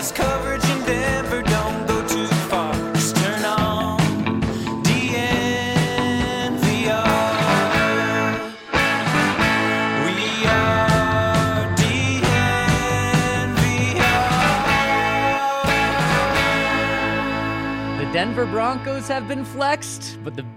best coverage in Denver. Don't go too far. Just turn on DNVR. We are DNVR. The Denver Broncos have been flexed, but the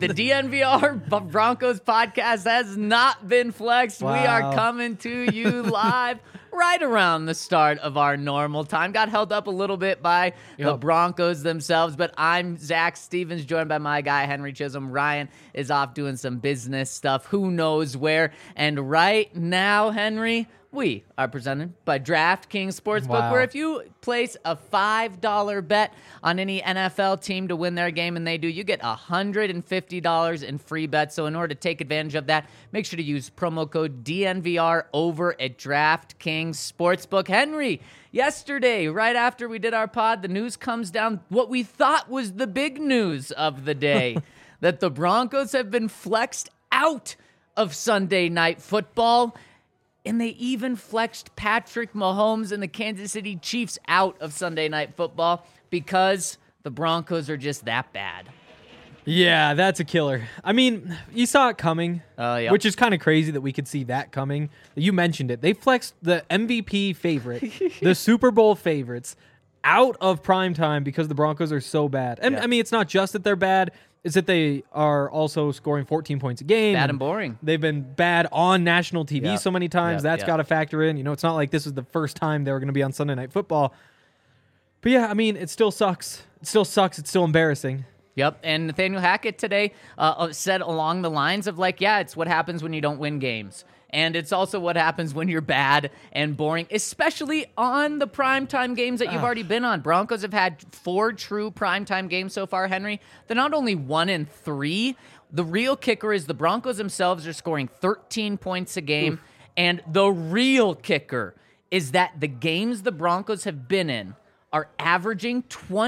DNVR Broncos podcast has not been flexed. Wow. We are coming to you live right around the start of our normal time. Got held up a little bit by the Broncos themselves, but I'm Zach Stevens, joined by my guy, Henry Chisholm. Ryan is off doing some business stuff. Who knows where? And right now, Henry, we are presented by DraftKings Sportsbook, Wow. where if you place a $5 bet on any NFL team to win their game, and they do, you get $150 in free bets. So in order to take advantage of that, make sure to use promo code DNVR over at DraftKings Sportsbook. Henry, yesterday, right after we did our pod, the news comes down, what we thought was the big news of the day, that the Broncos have been flexed out of Sunday Night Football. And they even flexed Patrick Mahomes and the Kansas City Chiefs out of Sunday Night Football because the Broncos are just that bad. Yeah, that's a killer. I mean, you saw it coming, Yep. which is kind of crazy that we could see that coming. You mentioned it. They flexed the MVP favorite, the Super Bowl favorites, out of primetime because the Broncos are so bad. And, I mean, it's not just that they're bad. It's that they are also scoring 14 points a game. Bad and boring. They've been bad on national TV Yep. so many times. Yep. That's Yep. got to factor in. You know, it's not like this is the first time they were going to be on Sunday Night Football. But yeah, I mean, it still sucks. It still sucks. It's still embarrassing. Yep, and Nathaniel Hackett today said along the lines of like, yeah, it's what happens when you don't win games. And it's also what happens when you're bad and boring, especially on the primetime games that you've already been on. Broncos have had 4 true primetime games so far, Henry. They're not only 1-3. The real kicker is the Broncos themselves are scoring 13 points a game. And the real kicker is that the games the Broncos have been in are averaging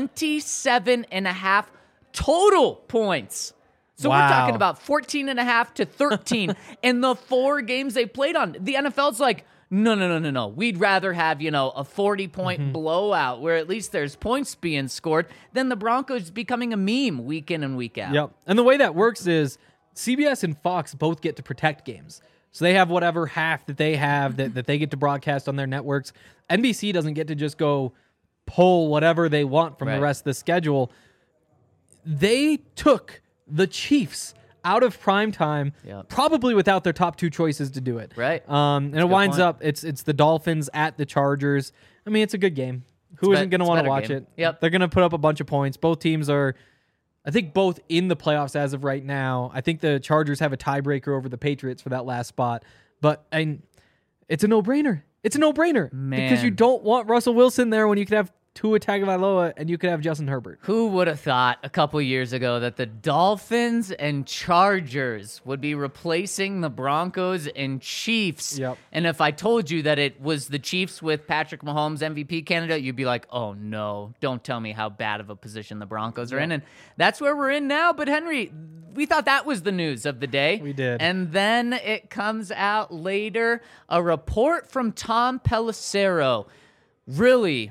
27.5 total points. So we're Wow. talking about 14.5 to 13 in the 4 games they played on. The NFL's like, no. We'd rather have, a 40-point blowout where at least there's points being scored than the Broncos becoming a meme week in and week out. Yep. And the way that works is CBS and Fox both get to protect games. So they have whatever half that they have that they get to broadcast on their networks. NBC doesn't get to just go pull whatever they want from the rest of the schedule. They took the Chiefs out of primetime, probably without their top 2 choices to do it. Right. And it winds up, it's the Dolphins at the Chargers. I mean, it's a good game. Who isn't going to want to watch it? Yep. They're going to put up a bunch of points. Both teams are, I think, both in the playoffs as of right now. I think the Chargers have a tiebreaker over the Patriots for that last spot. But it's a no-brainer. It's a no-brainer. Man. Because you don't want Russell Wilson there when you could have Tua Tagovailoa and you could have Justin Herbert. Who would have thought a couple years ago that the Dolphins and Chargers would be replacing the Broncos and Chiefs? Yep. And if I told you that it was the Chiefs with Patrick Mahomes MVP candidate, you'd be like, oh no, don't tell me how bad of a position the Broncos are in. And that's where we're in now. But Henry, we thought that was the news of the day. We did. And then it comes out later, a report from Tom Pelissero. Really,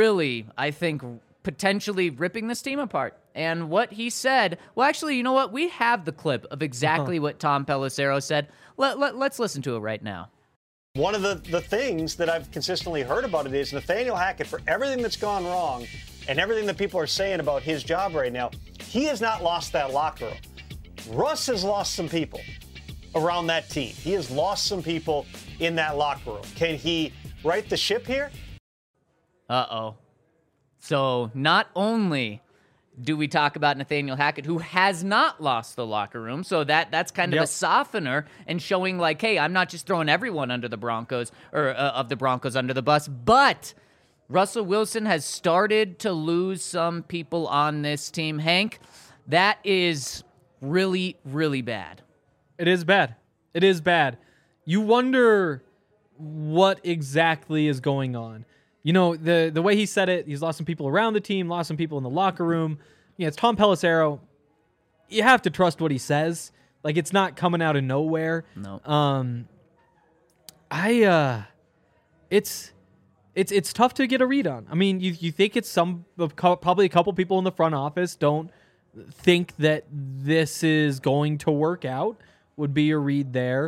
I think, potentially ripping this team apart. And what he said, well, actually, you know what? We have the clip of exactly what Tom Pelissero said. Let's listen to it right now. One of the things that I've consistently heard about it is Nathaniel Hackett, for everything that's gone wrong and everything that people are saying about his job right now, he has not lost that locker room. Russ has lost some people around that team. He has lost some people in that locker room. Can he right the ship here? Uh-oh. So not only do we talk about Nathaniel Hackett, who has not lost the locker room, so that's kind of a softener and showing like, hey, I'm not just throwing everyone under the Broncos or of the Broncos under the bus, but Russell Wilson has started to lose some people on this team. Hank, that is really, really bad. It is bad. It is bad. You wonder what exactly is going on. You know, the way he said it, he's lost some people around the team, lost some people in the locker room. Yeah, it's Tom Pelissero. You have to trust what he says. Like, it's not coming out of nowhere. No. it's tough to get a read on. I mean, you think it's probably a couple people in the front office don't think that this is going to work out, would be a read there.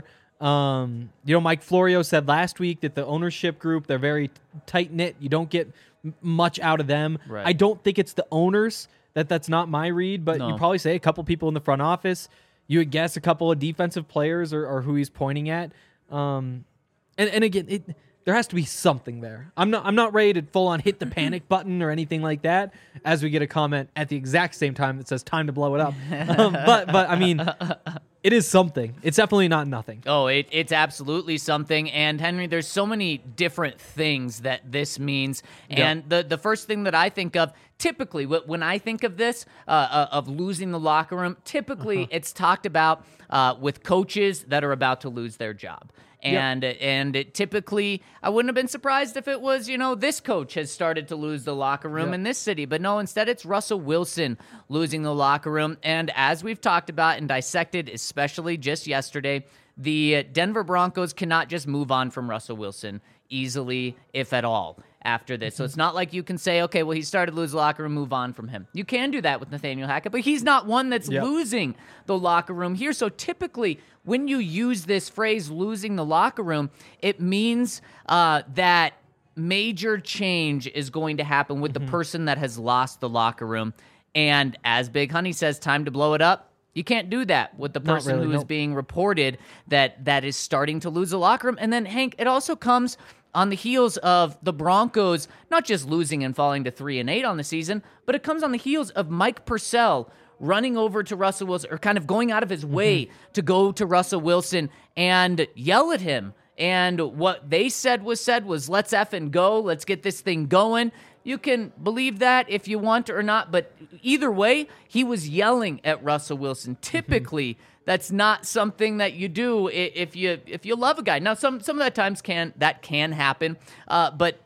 Mike Florio said last week that the ownership group, they're very tight knit. You don't get much out of them. Right. I don't think it's the owners. That's not my read, but No. you probably say a couple people in the front office. You would guess a couple of defensive players or who he's pointing at. And again, there has to be something there. I'm not ready to full on hit the panic button or anything like that. As we get a comment at the exact same time that says time to blow it up. But I mean, it is something. It's definitely not nothing. Oh, it's absolutely something. And Henry, there's so many different things that this means. And the first thing that I think of, typically, when I think of this, of losing the locker room, typically it's talked about with coaches that are about to lose their job. And it typically, I wouldn't have been surprised if it was, this coach has started to lose the locker room in this city. But no, instead it's Russell Wilson losing the locker room. And as we've talked about and dissected, especially just yesterday, the Denver Broncos cannot just move on from Russell Wilson easily, if at all, after this. So it's not like you can say, okay, well, he started to lose the locker room, move on from him. You can do that with Nathaniel Hackett, but he's not one that's losing the locker room here. So typically, when you use this phrase, losing the locker room, it means that major change is going to happen with the person that has lost the locker room. And as Big Honey says, time to blow it up. You can't do that with the person who is being reported that is starting to lose the locker room. And then, Hank, it also comes on the heels of the Broncos not just losing and falling to 3-8 on the season, but it comes on the heels of Mike Purcell running over to Russell Wilson, or kind of going out of his way to go to Russell Wilson and yell at him. And what they said was, let's effing go. Let's get this thing going. You can believe that if you want or not, but either way, he was yelling at Russell Wilson. Typically, that's not something that you do if you love a guy. Now, some of that times can happen, but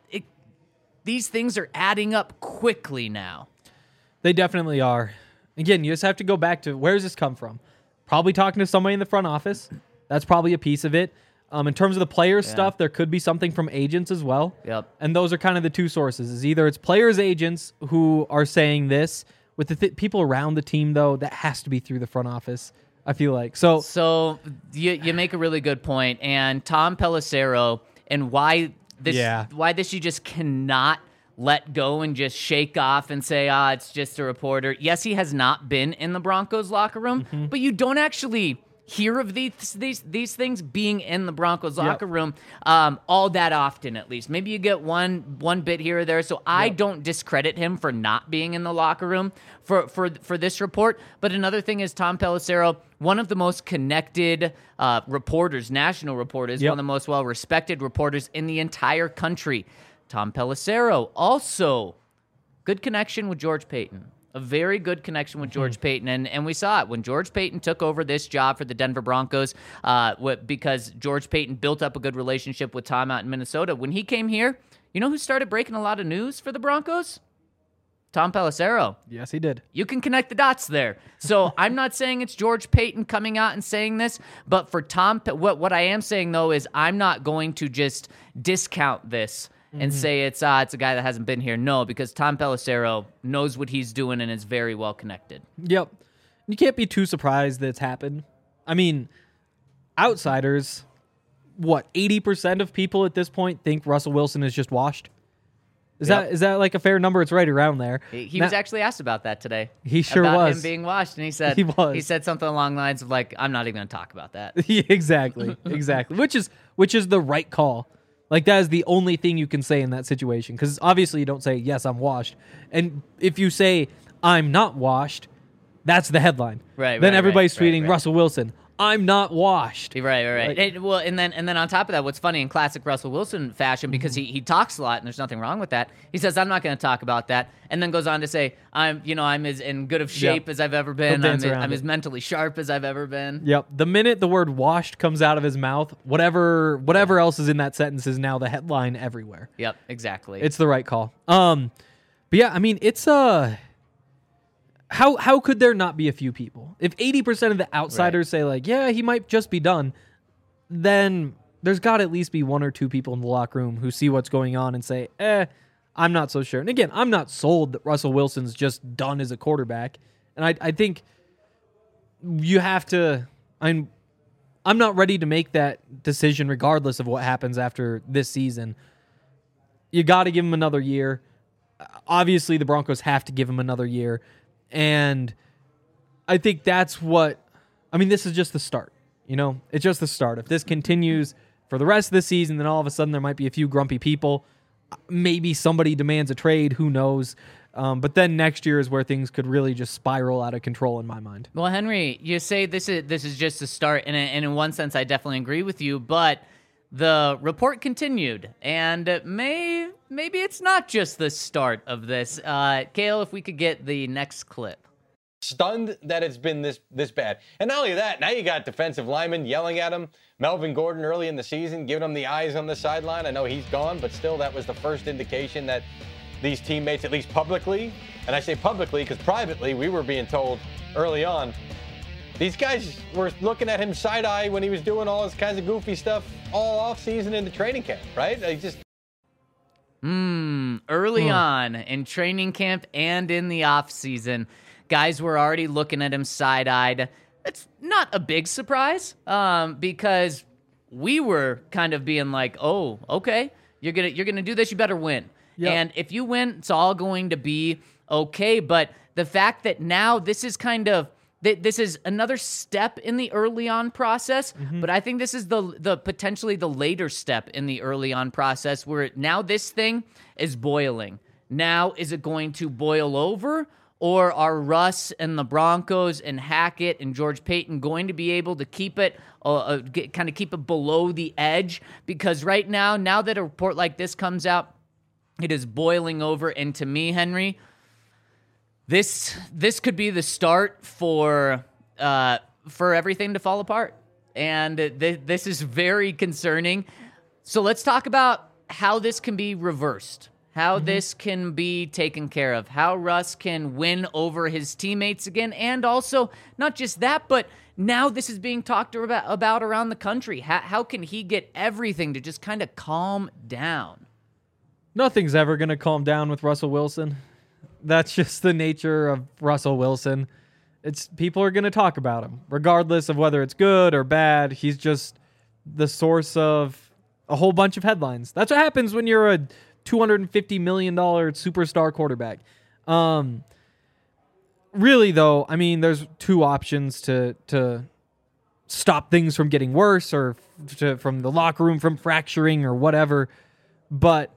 these things are adding up quickly now. They definitely are. Again, you just have to go back to, where does this come from? Probably talking to somebody in the front office. That's probably a piece of it. In terms of the players stuff, there could be something from agents as well. Yep. And those are kind of the two sources. Is either it's players' agents who are saying this. With the people around the team, though, that has to be through the front office, I feel like. So you make a really good point. And Tom Pelissero, and why this you just cannot let go and just shake off and say, it's just a reporter. Yes, he has not been in the Broncos locker room, but you don't actually hear of these things being in the Broncos locker room all that often, at least. Maybe you get one bit here or there. So I don't discredit him for not being in the locker room for this report. But another thing is Tom Pelissero, one of the most connected reporters, national reporters, one of the most well-respected reporters in the entire country. Tom Pelissero, also good connection with George Paton. A very good connection with George Paton, and we saw it when George Paton took over this job for the Denver Broncos because George Paton built up a good relationship with Tom out in Minnesota. When he came here, you know who started breaking a lot of news for the Broncos? Tom Pelissero. Yes, he did. You can connect the dots there. So I'm not saying it's George Paton coming out and saying this, but for Tom, what I am saying, though, is I'm not going to just discount this and say it's a guy that hasn't been here. No, because Tom Pelissero knows what he's doing and is very well connected. Yep. You can't be too surprised that it's happened. I mean, outsiders, 80% of people at this point think Russell Wilson is just washed? Is that like a fair number? It's right around there. He was actually asked about that today. He sure about was. him being washed, and he said he said something along the lines of like, I'm not even going to talk about that. Exactly. Which is the right call. Like, that is the only thing you can say in that situation. Because obviously you don't say, yes, I'm washed. And if you say, I'm not washed, that's the headline. Then everybody's tweeting, Russell Wilson, I'm not washed. Right. And then on top of that, what's funny in classic Russell Wilson fashion, because he talks a lot and there's nothing wrong with that. He says, I'm not going to talk about that. And then goes on to say, I'm as in good of shape as I've ever been. I'm as mentally sharp as I've ever been. Yep. The minute the word washed comes out of his mouth, whatever else is in that sentence is now the headline everywhere. Yep, exactly. It's the right call. But yeah, I mean, it's How could there not be a few people? If 80% of the outsiders say like, yeah, he might just be done, then there's got to at least be one or two people in the locker room who see what's going on and say, I'm not so sure. And again, I'm not sold that Russell Wilson's just done as a quarterback. And I think you have to, I'm not ready to make that decision regardless of what happens after this season. You got to give him another year. Obviously, the Broncos have to give him another year. And I think that's this is just the start. It's just the start. If this continues for the rest of the season, then all of a sudden there might be a few grumpy people. Maybe somebody demands a trade. Who knows? But then next year is where things could really just spiral out of control in my mind. Well, Henry, you say this is just the start, and in one sense, I definitely agree with you. But the report continued, and maybe it's not just the start of this. Kale, if we could get the next clip. Stunned that it's been this bad. And not only that, now you got defensive linemen yelling at him. Melvin Gordon early in the season giving him the eyes on the sideline. I know he's gone, but still that was the first indication that these teammates, at least publicly, and I say publicly because privately we were being told early on, these guys were looking at him side-eye when he was doing all this kinds of goofy stuff all off-season into training camp, right? They just... Early on in training camp and in the off-season, guys were already looking at him side-eyed. It's not a big surprise because we were kind of being like, oh, okay, you're gonna do this, you better win. Yep. And if you win, it's all going to be okay. But the fact that now this is this is another step in the early on process, but I think this is the potentially the later step in the early on process where now this thing is boiling. Now, is it going to boil over? Or are Russ and the Broncos and Hackett and George Payton going to be able to keep it, keep it below the edge? Because right now that a report like this comes out, it is boiling over. And to me, Henry, this could be the start for everything to fall apart. And this is very concerning. So let's talk about how this can be reversed. How this can be taken care of, how Russ can win over his teammates again, and also not just that, but now this is being talked about around the country. How can he get everything to just kind of calm down? Nothing's ever going to calm down with Russell Wilson. That's just the nature of Russell Wilson. People are going to talk about him, regardless of whether it's good or bad. He's just the source of a whole bunch of headlines. That's what happens when you're a $250 million superstar quarterback. Really, though, there's two options to stop things from getting worse or from the locker room from fracturing or whatever. But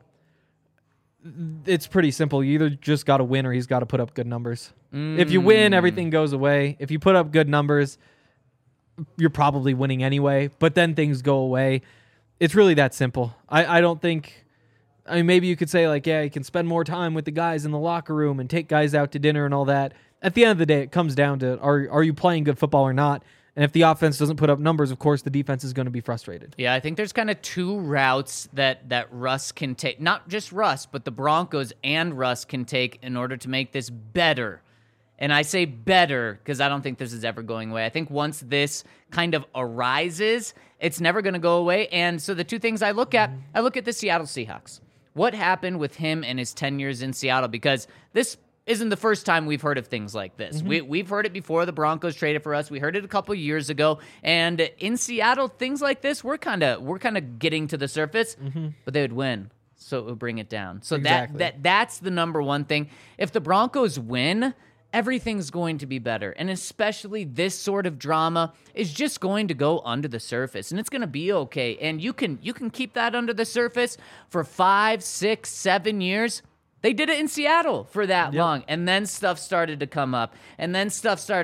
it's pretty simple. You either just got to win or he's got to put up good numbers. If you win, everything goes away. If you put up good numbers, you're probably winning anyway. But then things go away. It's really that simple. I don't think... maybe you could say, you can spend more time with the guys in the locker room and take guys out to dinner and all that. At the end of the day, it comes down to, are you playing good football or not? And if the offense doesn't put up numbers, of course, the defense is going to be frustrated. Yeah, I think there's kind of two routes that Russ can take. Not just Russ, but the Broncos and Russ can take in order to make this better. And I say better because I don't think this is ever going away. I think once this kind of arises, it's never going to go away. And so the two things I look at the Seattle Seahawks. What happened with him and his 10 years in Seattle? Because this isn't the first time we've heard of things like this. We've heard it before the Broncos traded for us. We heard it a couple years ago. And in Seattle, things like this, we're kind of getting to the surface, but they would win. So it would bring it down. So exactly. That's the number one thing. If the Broncos win, everything's going to be better. And especially this sort of drama is just going to go under the surface, and it's going to be okay. And you can keep that under the surface for 5, 6, 7 years. They did it in Seattle for that long. And then stuff started to come up. And then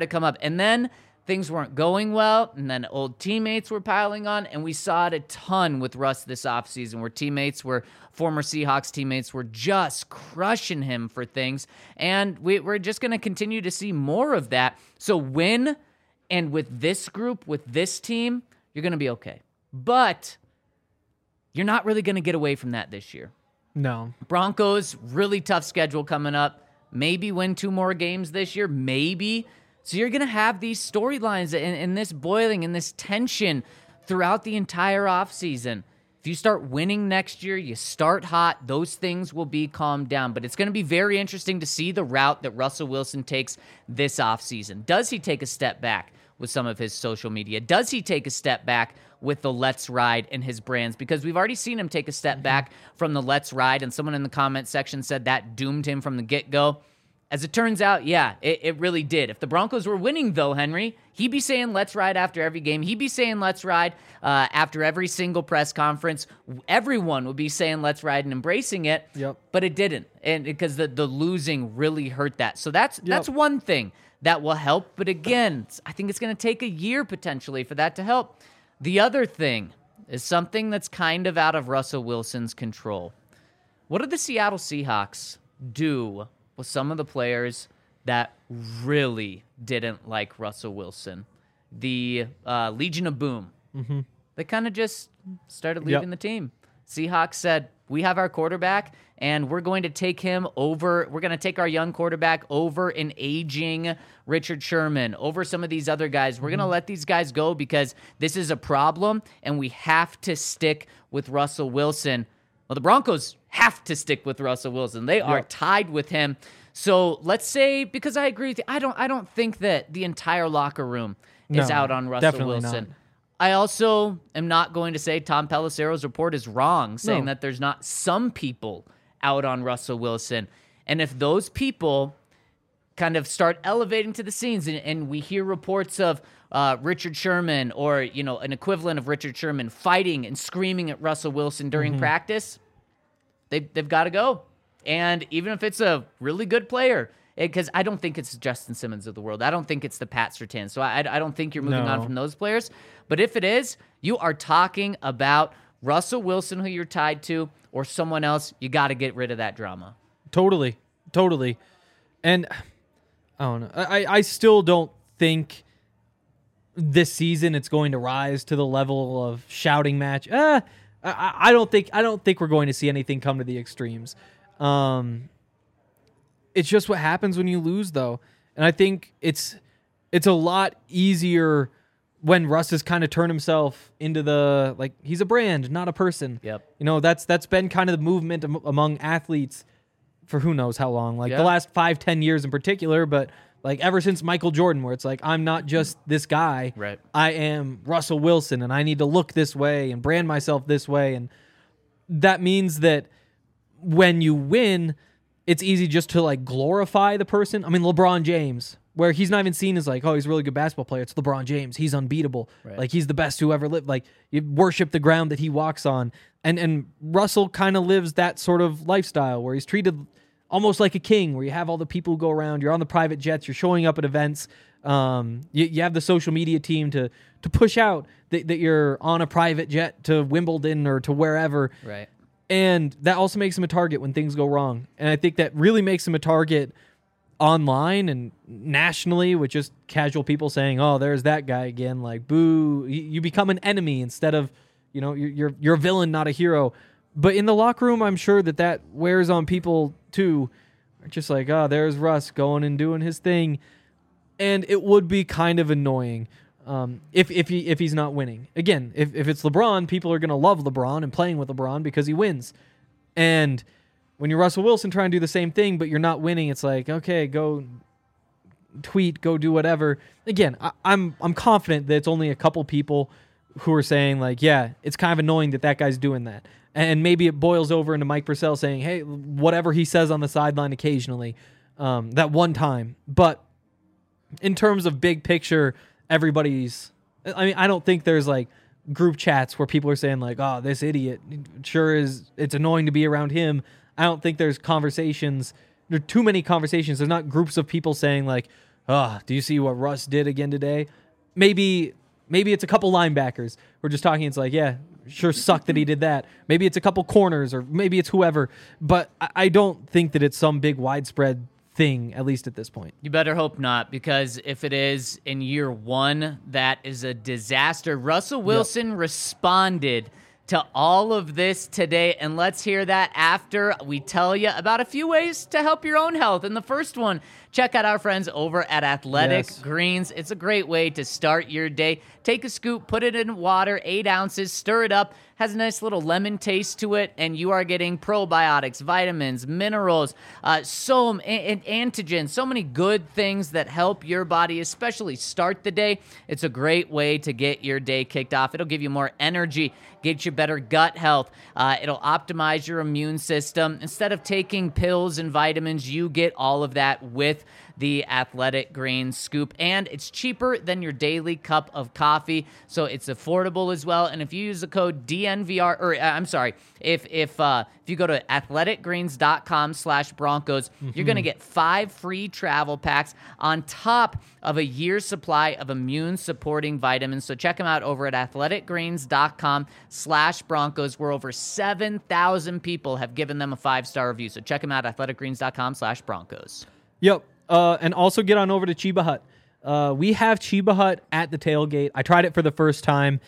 things weren't going well. And then old teammates were piling on. And we saw it a ton with Russ this offseason where former Seahawks teammates were just crushing him for things. And we're just going to continue to see more of that. So win, and with this group, with this team, you're going to be okay. But you're not really going to get away from that this year. No. Broncos, really tough schedule coming up. Maybe win 2 more games this year. Maybe. So you're going to have these storylines and this boiling and this tension throughout the entire offseason. If you start winning next year, you start hot, those things will be calmed down. But it's going to be very interesting to see the route that Russell Wilson takes this offseason. Does he take a step back with some of his social media? Does he take a step back with the Let's Ride and his brands? Because we've already seen him take a step back from the Let's Ride, and someone in the comment section said that doomed him from the get-go. As it turns out, yeah, it really did. If the Broncos were winning, though, Henry, he'd be saying let's ride after every game. He'd be saying let's ride after every single press conference. Everyone would be saying let's ride and embracing it. Yep. But it didn't, and because the losing really hurt that. So that's one thing that will help. But again, I think it's going to take a year potentially for that to help. The other thing is something that's kind of out of Russell Wilson's control. What did the Seattle Seahawks do with some of the players that really didn't like Russell Wilson? The Legion of Boom. Mm-hmm. They kind of just started leaving the team. Seahawks said, we have our quarterback, and we're going to take him over. We're going to take our young quarterback over an aging Richard Sherman, over some of these other guys. We're going to let these guys go because this is a problem, and we have to stick with Russell Wilson. Well, the Broncos have to stick with Russell Wilson. They are tied with him. So let's say, because I agree with you, I don't think that the entire locker room is out on Russell Wilson. Not. I also am not going to say Tom Pelissero's report is wrong, saying that there's not some people out on Russell Wilson. And if those people kind of start elevating to the scenes, and we hear reports of Richard Sherman or, an equivalent of Richard Sherman fighting and screaming at Russell Wilson during practice, they've got to go. And even if it's a really good player, because I don't think it's Justin Simmons of the world. I don't think it's the Pat Surtain. So I don't think you're moving on from those players. But if it is, you are talking about Russell Wilson, who you're tied to, or someone else. You got to get rid of that drama. Totally. And I don't know. I still don't think this season it's going to rise to the level of shouting match. I don't think we're going to see anything come to the extremes. It's just what happens when you lose, though. And I think it's a lot easier when Russ has kind of turned himself into he's a brand, not a person. Yep. That's been kind of the movement among athletes for who knows how long, the last 5-10 years in particular, but ever since Michael Jordan, where it's I'm not just this guy. Right. I am Russell Wilson, and I need to look this way and brand myself this way. And that means that when you win, it's easy just to glorify the person. I mean, LeBron James, where he's not even seen as he's a really good basketball player. It's LeBron James. He's unbeatable. Right. He's the best who ever lived. You worship the ground that he walks on. And Russell kind of lives that sort of lifestyle where he's treated almost like a king, where you have all the people who go around, you're on the private jets, you're showing up at events. You have the social media team to push out that you're on a private jet to Wimbledon or to wherever. Right. And that also makes him a target when things go wrong. And I think that really makes him a target online and nationally with just casual people saying, oh, there's that guy again. Boo. You become an enemy instead of, you're a villain, not a hero. But in the locker room, I'm sure that wears on people too. Just oh, there's Russ going and doing his thing. And it would be kind of annoying if he's not winning. Again, if it's LeBron, people are going to love LeBron and playing with LeBron because he wins. And when you're Russell Wilson trying to do the same thing, but you're not winning, it's okay, go tweet, go do whatever. Again, I'm confident that it's only a couple people who are saying yeah, it's kind of annoying that guy's doing that. And maybe it boils over into Mike Purcell saying, hey, whatever he says on the sideline occasionally, that one time. But in terms of big picture, I don't think there's group chats where people are saying oh, this idiot sure is, it's annoying to be around him. I don't think there's conversations. There are too many conversations. There's not groups of people saying oh, do you see what Russ did again today? Maybe it's a couple linebackers who are just talking. It's yeah, sure sucked that he did that. Maybe it's a couple corners or maybe it's whoever. But I don't think that it's some big widespread thing, at least at this point. You better hope not, because if it is in year one, that is a disaster. Russell Wilson responded to all of this today, and let's hear that after we tell you about a few ways to help your own health. And the first one, check out our friends over at Athletic Greens. It's a great way to start your day. Take a scoop, put it in water, 8 ounces, stir it up. Has a nice little lemon taste to it, and you are getting probiotics, vitamins, minerals, antigens, so many good things that help your body, especially start the day. It's a great way to get your day kicked off. It'll give you more energy, get you better gut health. It'll optimize your immune system. Instead of taking pills and vitamins, you get all of that with the Athletic Greens scoop, and it's cheaper than your daily cup of coffee, so it's affordable as well. And if you use the code DNVR, if you go to athleticgreens.com/Broncos, you're going to get 5 free travel packs on top of a year's supply of immune-supporting vitamins. So check them out over at athleticgreens.com/Broncos, where over 7,000 people have given them a 5-star review. So check them out, athleticgreens.com/Broncos. Yep. And also get on over to Cheba Hut. We have Cheba Hut at the tailgate. I tried it for the first time.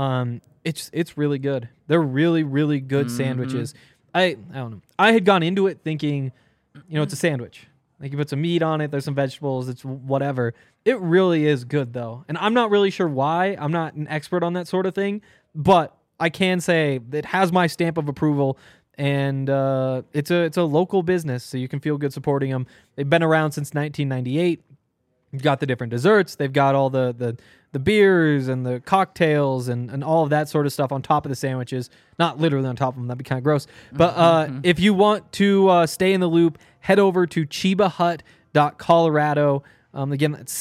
It's really good. They're really, really good sandwiches. I don't know. I had gone into it thinking, it's a sandwich. Like you put some meat on it, there's some vegetables, it's whatever. It really is good though. And I'm not really sure why. I'm not an expert on that sort of thing, but I can say it has my stamp of approval. And it's a local business, so you can feel good supporting them. They've been around since 1998. You've got the different desserts. They've got all the beers and the cocktails and all of that sort of stuff on top of the sandwiches. Not literally on top of them. That'd be kind of gross. But if you want to stay in the loop, head over to chebahut.colorado. Again, it's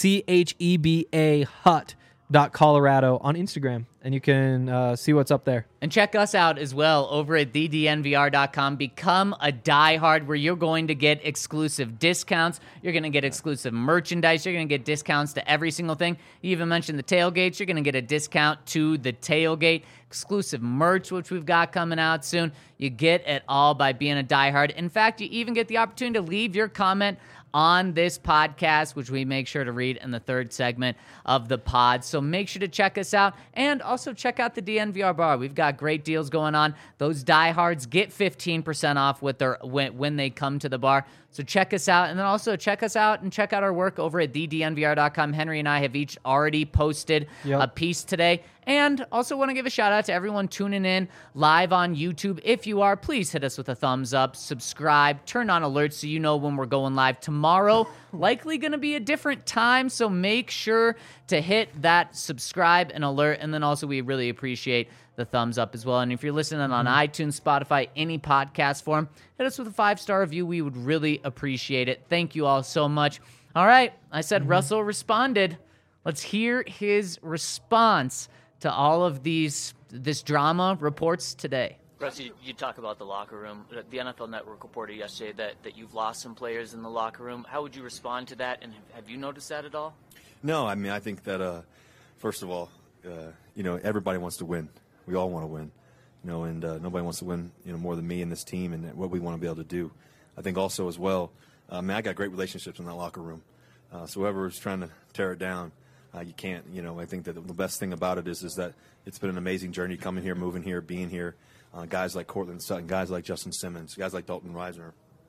CHEBA Hut.Colorado on Instagram, and you can see what's up there. And check us out as well over at thednvr.com. Become a diehard, where you're going to get exclusive discounts. You're going to get exclusive merchandise. You're going to get discounts to every single thing. You even mentioned the tailgates. You're going to get a discount to the tailgate. Exclusive merch, which we've got coming out soon. You get it all by being a diehard. In fact, you even get the opportunity to leave your comment on this podcast, which we make sure to read in the third segment of the pod. So make sure to check us out, and also check out the DNVR bar. We've got great deals going on. Those diehards get 15% off with their when they come to the bar. So check us out, and then also check us out and check out our work over at thednvr.com. Henry and I have each already posted a piece today. And also want to give a shout out to everyone tuning in live on YouTube. If you are, please hit us with a thumbs up, subscribe, turn on alerts so you know when we're going live. Tomorrow, likely going to be a different time, so make sure to hit that subscribe and alert. And then also we really appreciate the thumbs up as well. And if you're listening on iTunes, Spotify, any podcast form, hit us with a 5-star review. We would really appreciate it. Thank you all so much. All right, I said Russell responded. Let's hear his response to all of this drama reports today. Russ, you talk about the locker room. The NFL Network reported yesterday that you've lost some players in the locker room. How would you respond to that, and have you noticed that at all? No, I mean, I think that, first of all, everybody wants to win. We all want to win, and nobody wants to win, more than me and this team and what we want to be able to do. I think also as well, I got great relationships in that locker room. So whoever is trying to tear it down, you can't. I think that the best thing about it is that it's been an amazing journey coming here, moving here, being here. Guys like Cortland Sutton, guys like Justin Simmons, guys like Dalton Reisner,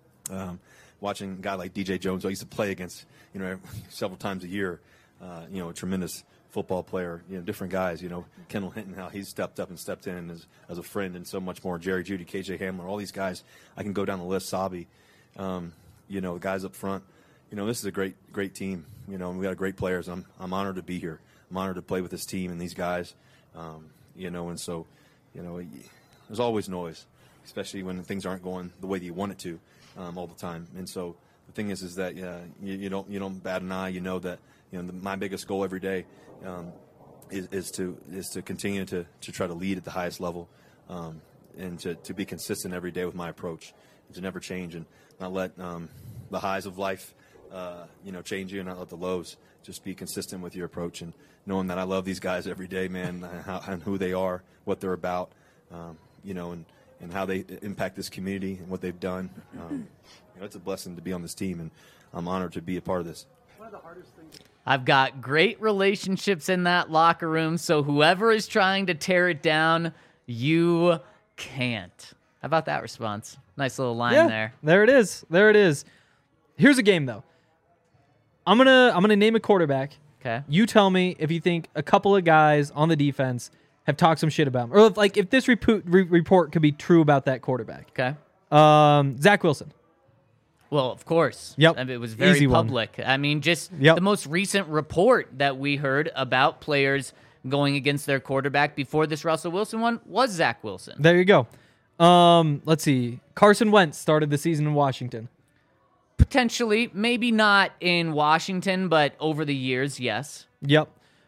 watching a guy like DJ Jones. I used to play against, several times a year. A tremendous football player. Different guys. Kendall Hinton, how he's stepped up and stepped in as a friend, and so much more. Jerry Jeudy, KJ Hamler, all these guys. I can go down the list. Sabi, the guys up front. This is a great team. And we got great players. I'm honored to be here. I'm honored to play with this team and these guys. And so, there's always noise, especially when things aren't going the way that you want it to all the time. And so the thing is that you don't bat an eye. That my biggest goal every day is to continue to try to lead at the highest level, and to be consistent every day with my approach, and to never change and not let the highs of life change you, and not let the lows. Just be consistent with your approach, and knowing that I love these guys every day, man, and who they are, what they're about, and how they impact this community and what they've done. It's a blessing to be on this team, and I'm honored to be a part of this. I've got great relationships in that locker room, so whoever is trying to tear it down, You can't. How about that response? Nice little line Yeah, there. there it is. There it is. Here's a game though. I'm gonna name a quarterback. Okay. You tell me if you think a couple of guys on the defense have talked some shit about him, or if this report could be true about that quarterback. Okay. Zach Wilson. Well, of course. Yep. I mean, it was very Easy one. public. I mean, just Yep. the most recent report that we heard about players going against their quarterback before this Russell Wilson one was Zach Wilson. There you go. Let's see. Carson Wentz started the season in Washington. Potentially, maybe not in Washington, but over the years, yes. Yep.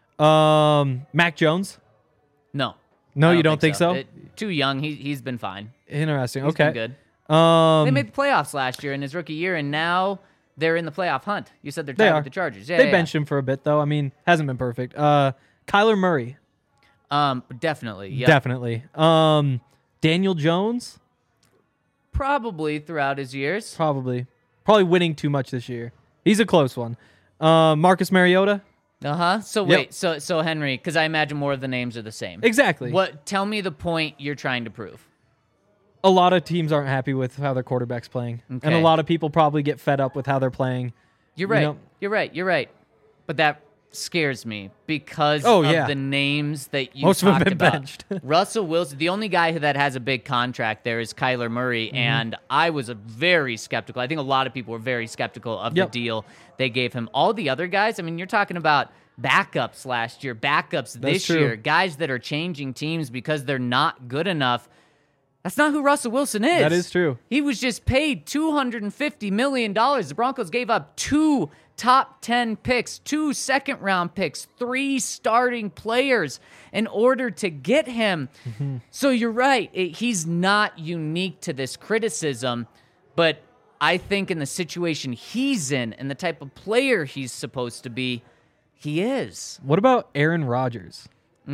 Mac Jones. No. No, I you don't think so? Too young. He's been fine. Interesting. He's Okay. been good. Um, They made the playoffs last year in his rookie year, and now they're in the playoff hunt. You said they're They tied are. with the Chargers. Yeah, they yeah, benched him for a bit though. I mean, hasn't been perfect. Kyler Murray. Definitely. Yeah. Definitely. Daniel Jones. Probably throughout his years. Probably winning too much this year. He's a close one. Marcus Mariota. So wait, so Henry, because I imagine more of the names are the same. Exactly. What? Tell me the point you're trying to prove. A lot of teams aren't happy with how their quarterback's playing, and a Okay. lot of people probably get fed up with how they're playing. You're right. know- You're right. But that scares me because Oh, of yeah. the names that you Most of them talked have been about. benched. Russell Wilson, the only guy that has a big contract there is Kyler Murray, Mm-hmm. and I was very skeptical. I think a lot of people were very skeptical of Yep. the deal they gave him. All the other guys, I mean, you're talking about backups last year, backups this true. year, guys that are changing teams because they're not good enough. That's not who Russell Wilson is. That is true. He was just paid $250 million. The Broncos gave up 2 top 10 picks, 2 second-round picks, 3 starting players in order to get him. So you're right. He's not unique to this criticism, but I think in the situation he's in and the type of player he's supposed to be, he is. What about Aaron Rodgers?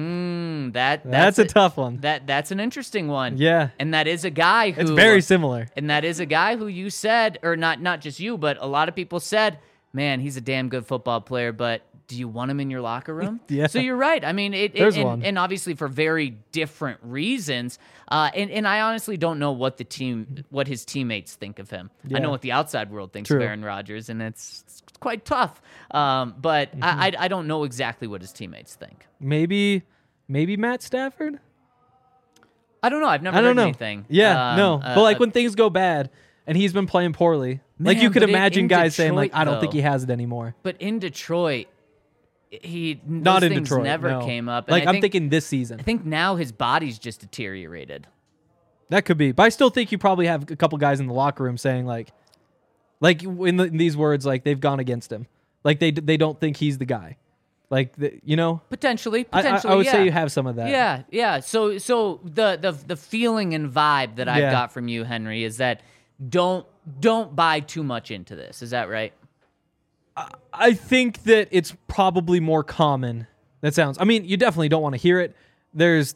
That's a tough one. That's an interesting one. Yeah. And that is a guy who It's very similar. And that is a guy who you said, or not just you, but a lot of people said, man, he's a damn good football player, but do you want him in your locker room? Yeah. So you're right. I mean, There's one. and obviously for very different reasons. And I honestly don't know what his teammates think of him. I Yeah. know what the outside world thinks True. of Aaron Rodgers, and it's quite tough. But I don't know exactly what his teammates think. Maybe Matt Stafford. I don't know. I've never I don't heard know. anything. Yeah, no. But like when things go bad and he's been playing poorly, like you Man, could but imagine in guys saying like, Detroit, I don't think though. he has it anymore. But in Detroit, Not those in things Detroit. never no. came up. And Like I I'm think, thinking this season. I think now his body's just deteriorated. That could be. But I still think you probably have a couple guys in the locker room saying like in these words, like they've gone against him. Like they don't think he's the guy. Like Potentially, I would yeah. say you have some of that. Yeah. So the feeling and vibe that I've Yeah. got from you, Henry, is that don't buy too much into this. Is that right? I think that it's probably more common. That sounds. I mean, you definitely don't want to hear it. There's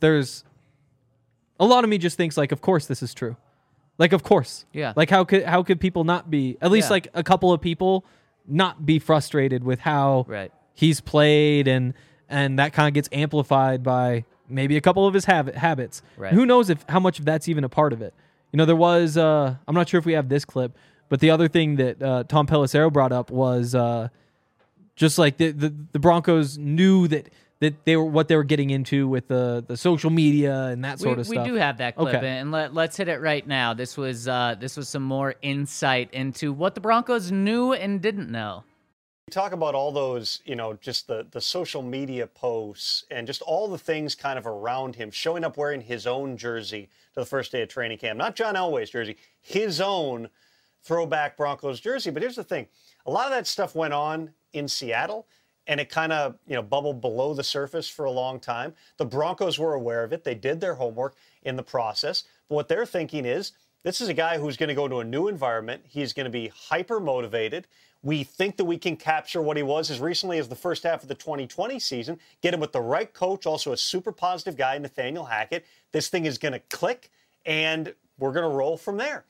a lot of me just thinks like, of course this is true. Like, of course. Yeah. Like, how could people not be? At least Yeah. like a couple of people not be frustrated with how Right. he's played, and that kind of gets amplified by maybe a couple of his habits. Right. Who knows how much of that's even a part of it? You know, there was. I'm not sure if we have this clip, but the other thing that Tom Pelissero brought up was just like the Broncos knew that they were what they were getting into with the social media and that sort of We stuff. do have that clip, Okay. and let's hit it right now. This was some more insight into what the Broncos knew and didn't know. Talk about all those, just the social media posts and just all the things kind of around him, showing up wearing his own jersey to the first day of training camp. Not John Elway's jersey, his own throwback Broncos jersey. But here's the thing. A lot of that stuff went on in Seattle, and it kind of, bubbled below the surface for a long time. The Broncos were aware of it. They did their homework in the process. But what they're thinking is, this is a guy who's going to go to a new environment. He's going to be hyper motivated. We think that we can capture what he was as recently as the first half of the 2020 season, get him with the right coach, also a super positive guy, Nathaniel Hackett. This thing is going to click, and we're going to roll from there.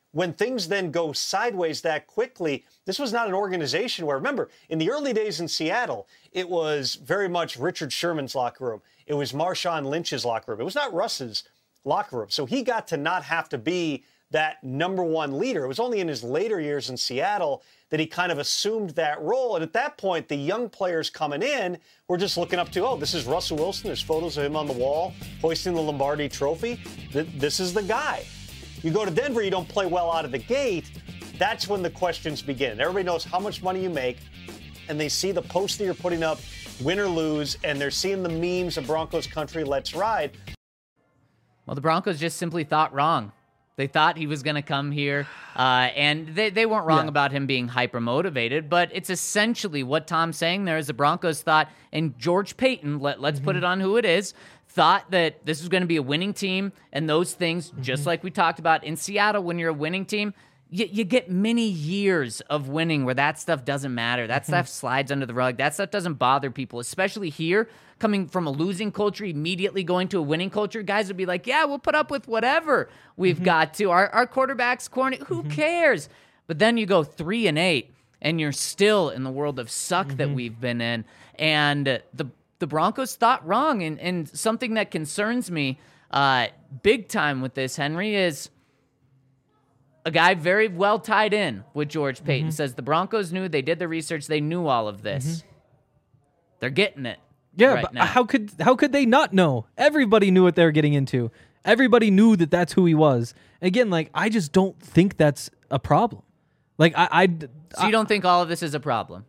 when things then go sideways that quickly, this was not an organization where, remember, in the early days in Seattle, it was very much Richard Sherman's locker room. It was Marshawn Lynch's locker room. It was not Russ's locker room. So he got to not have to be that number one leader. It was only in his later years in Seattle that he kind of assumed that role. And at that point, the young players coming in were just looking up to, oh, this is Russell Wilson. There's photos of him on the wall hoisting the Lombardi trophy. This is the guy. You go to Denver, you don't play well out of the gate. That's when the questions begin. Everybody knows how much money you make, and they see the post that you're putting up, win or lose, and they're seeing the memes of Broncos country, let's ride. Well, the Broncos just simply thought wrong. They thought he was going to come here, and they weren't wrong about him being hyper-motivated, but it's essentially what Tom's saying there is the Broncos thought, and George Payton, let's put it on who it is, thought that this was going to be a winning team, and those things, just like we talked about in Seattle, when you're a winning team, you get many years of winning where that stuff doesn't matter. That stuff slides under the rug. That stuff doesn't bother people, especially here, coming from a losing culture, immediately going to a winning culture. Guys would be like, yeah, we'll put up with whatever we've got to. Our quarterback's corny. Who cares? But then you go 3-8, and you're still in the world of suck that we've been in. And the Broncos thought wrong. And something that concerns me big time with this, Henry, is a guy very well tied in with George Payton says the Broncos knew, they did the research, they knew all of this. They're getting it. Yeah, right but now. how could they not know? Everybody knew what they were getting into. Everybody knew that that's who he was. Again, like, I just don't think that's a problem. Like, So you don't think all of this is a problem?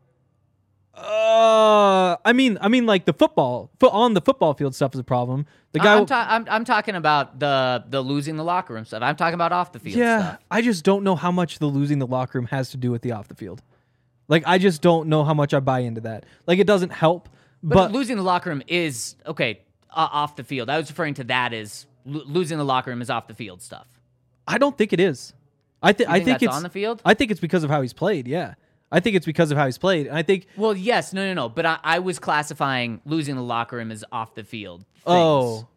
I mean, like the on the football field stuff is a problem. The guy, I'm talking about the losing the locker room stuff. I'm talking about off the field stuff. I just don't know how much the losing the locker room has to do with the off the field. Like, I just don't know how much I buy into that. Like, it doesn't help. But losing the locker room is okay off the field. I was referring to that as losing the locker room is off the field stuff. I don't think it is. I think that's it's on the field. I think it's because of how he's played. Yeah. I think it's because of how he's played. And I think. Well, yes, no. But I was classifying losing the locker room as off the field things. Oh.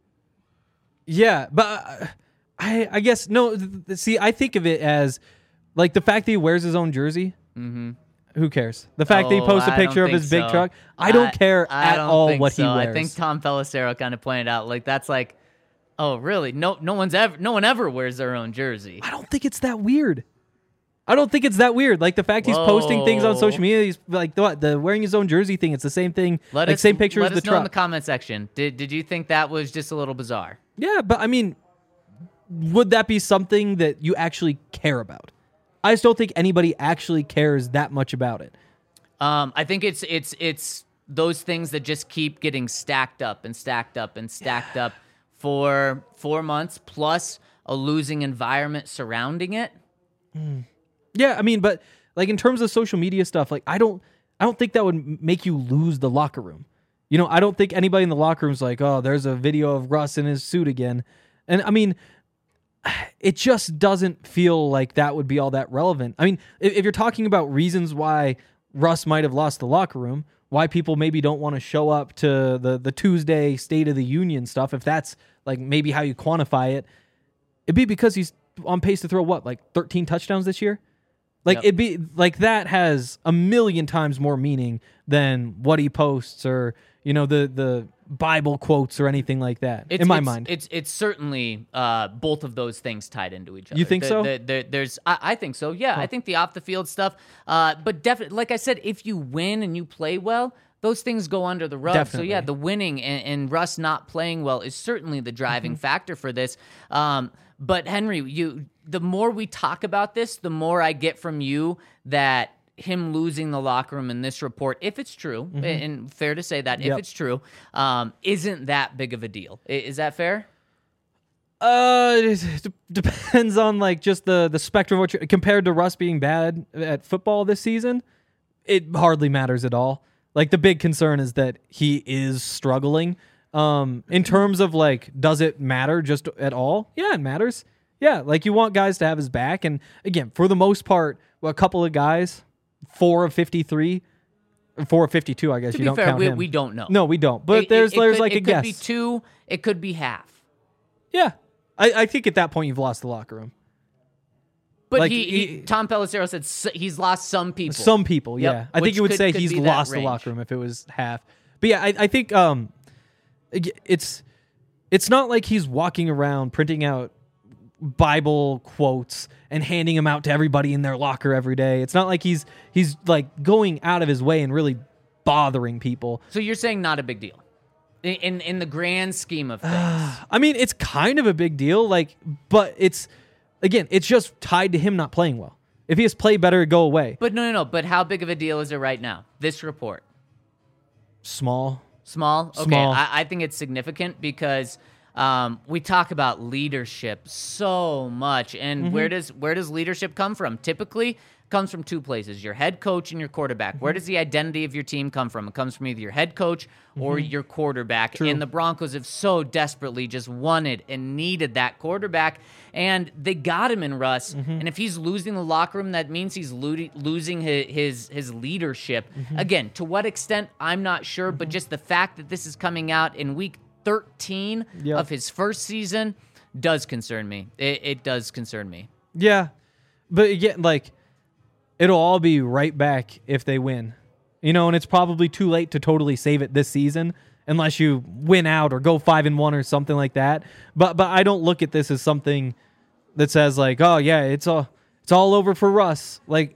Yeah, but I guess no. See, I think of it as like the fact that he wears his own jersey. Mm-hmm. Who cares? The fact that he posts a picture of his big truck. I don't care at all what he wears. I think Tom Pelissero kind of pointed out like that's like, oh really? No one ever wears their own jersey. I don't think it's that weird. Like the fact he's posting things on social media, he's like the wearing his own jersey thing. It's the same thing. Same picture as the truck. Let us know in the comment section. Did you think that was just a little bizarre? Yeah, but I mean, would that be something that you actually care about? I just don't think anybody actually cares that much about it. I think it's those things that just keep getting stacked up and stacked up and stacked up for 4 months plus a losing environment surrounding it. Yeah, I mean, but like in terms of social media stuff, like I don't think that would make you lose the locker room. You know, I don't think anybody in the locker room is like, oh, there's a video of Russ in his suit again. And I mean, it just doesn't feel like that would be all that relevant. I mean, if you're talking about reasons why Russ might have lost the locker room, why people maybe don't want to show up to the Tuesday State of the Union stuff, if that's like maybe how you quantify it, it'd be because he's on pace to throw what, like 13 touchdowns this year? Like it'd be like that has a million times more meaning than what he posts or, you know, the Bible quotes or anything like that. In my mind, it's certainly both of those things tied into each other. You think so? I think so. Yeah, I think the off the field stuff. But definitely, like I said, if you win and you play well, those things go under the rug. Definitely. So yeah, the winning and Russ not playing well is certainly the driving factor for this. But Henry, the more we talk about this, the more I get from you that him losing the locker room in this report, if it's true, and fair to say that, if it's true, isn't that big of a deal. Is that fair? It depends on like just the spectrum of what you're, compared to Russ being bad at football this season, it hardly matters at all. Like the big concern is that he is struggling. In terms of like, does it matter just at all? Yeah, it matters. Yeah, like you want guys to have his back. And again, for the most part, a couple of guys, 4 of 53, 4 of 52, I guess. To you be don't fair, count him. we don't know. No, we don't. But there's like a guess. It could be 2, it could be half. Yeah. I think at that point you've lost the locker room. But Like, Tom Pelissero said he's lost some people. Some people, Yep. yeah. I think Which you would could say be he's that lost the range. locker room if it was half. But yeah, I think it's not like he's walking around printing out Bible quotes and handing them out to everybody in their locker every day. It's not like he's like going out of his way and really bothering people. So you're saying not a big deal in the grand scheme of things. I mean, it's kind of a big deal, like, but it's just tied to him not playing well. If he has played better, it'd go away. But no. But how big of a deal is it right now? This report. Small. Small? Okay. Small. I think it's significant because we talk about leadership so much. And where does leadership come from? Typically, it comes from two places, your head coach and your quarterback. Where does the identity of your team come from? It comes from either your head coach or your quarterback. True. And the Broncos have so desperately just wanted and needed that quarterback. And they got him in Russ. And if he's losing the locker room, that means he's losing his leadership. Again, to what extent, I'm not sure. But just the fact that this is coming out in week 13 Yep. of his first season does concern me. It does concern me. Yeah. But again, like, it'll all be right back if they win. And it's probably too late to totally save it this season unless you win out or go 5-1 or something like that. But I don't look at this as something that says like, oh yeah, it's all over for Russ. Like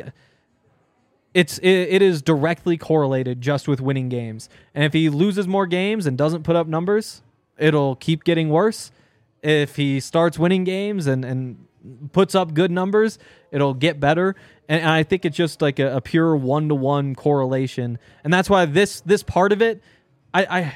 it is directly correlated just with winning games. And if he loses more games and doesn't put up numbers, it'll keep getting worse. If he starts winning games and puts up good numbers, it'll get better. And I think it's just like a pure 1-to-1 correlation. And that's why this part of it, I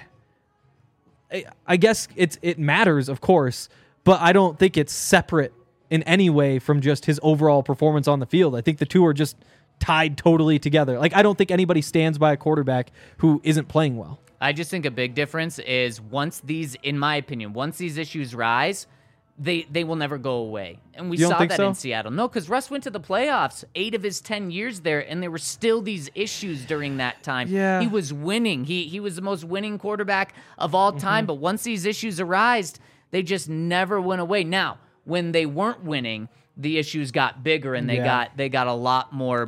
guess it matters, of course, but I don't think it's separate in any way from just his overall performance on the field. I think the two are just tied totally together. Like, I don't think anybody stands by a quarterback who isn't playing well. I just think a big difference is in my opinion, once these issues rise, they will never go away. And we You don't saw think that so? in Seattle. No, because Russ went to the playoffs 8 of his 10 years there, and there were still these issues during that time. Yeah. He was winning. He was the most winning quarterback of all time. But once these issues arised, they just never went away. Now, when they weren't winning, the issues got bigger, and they got a lot more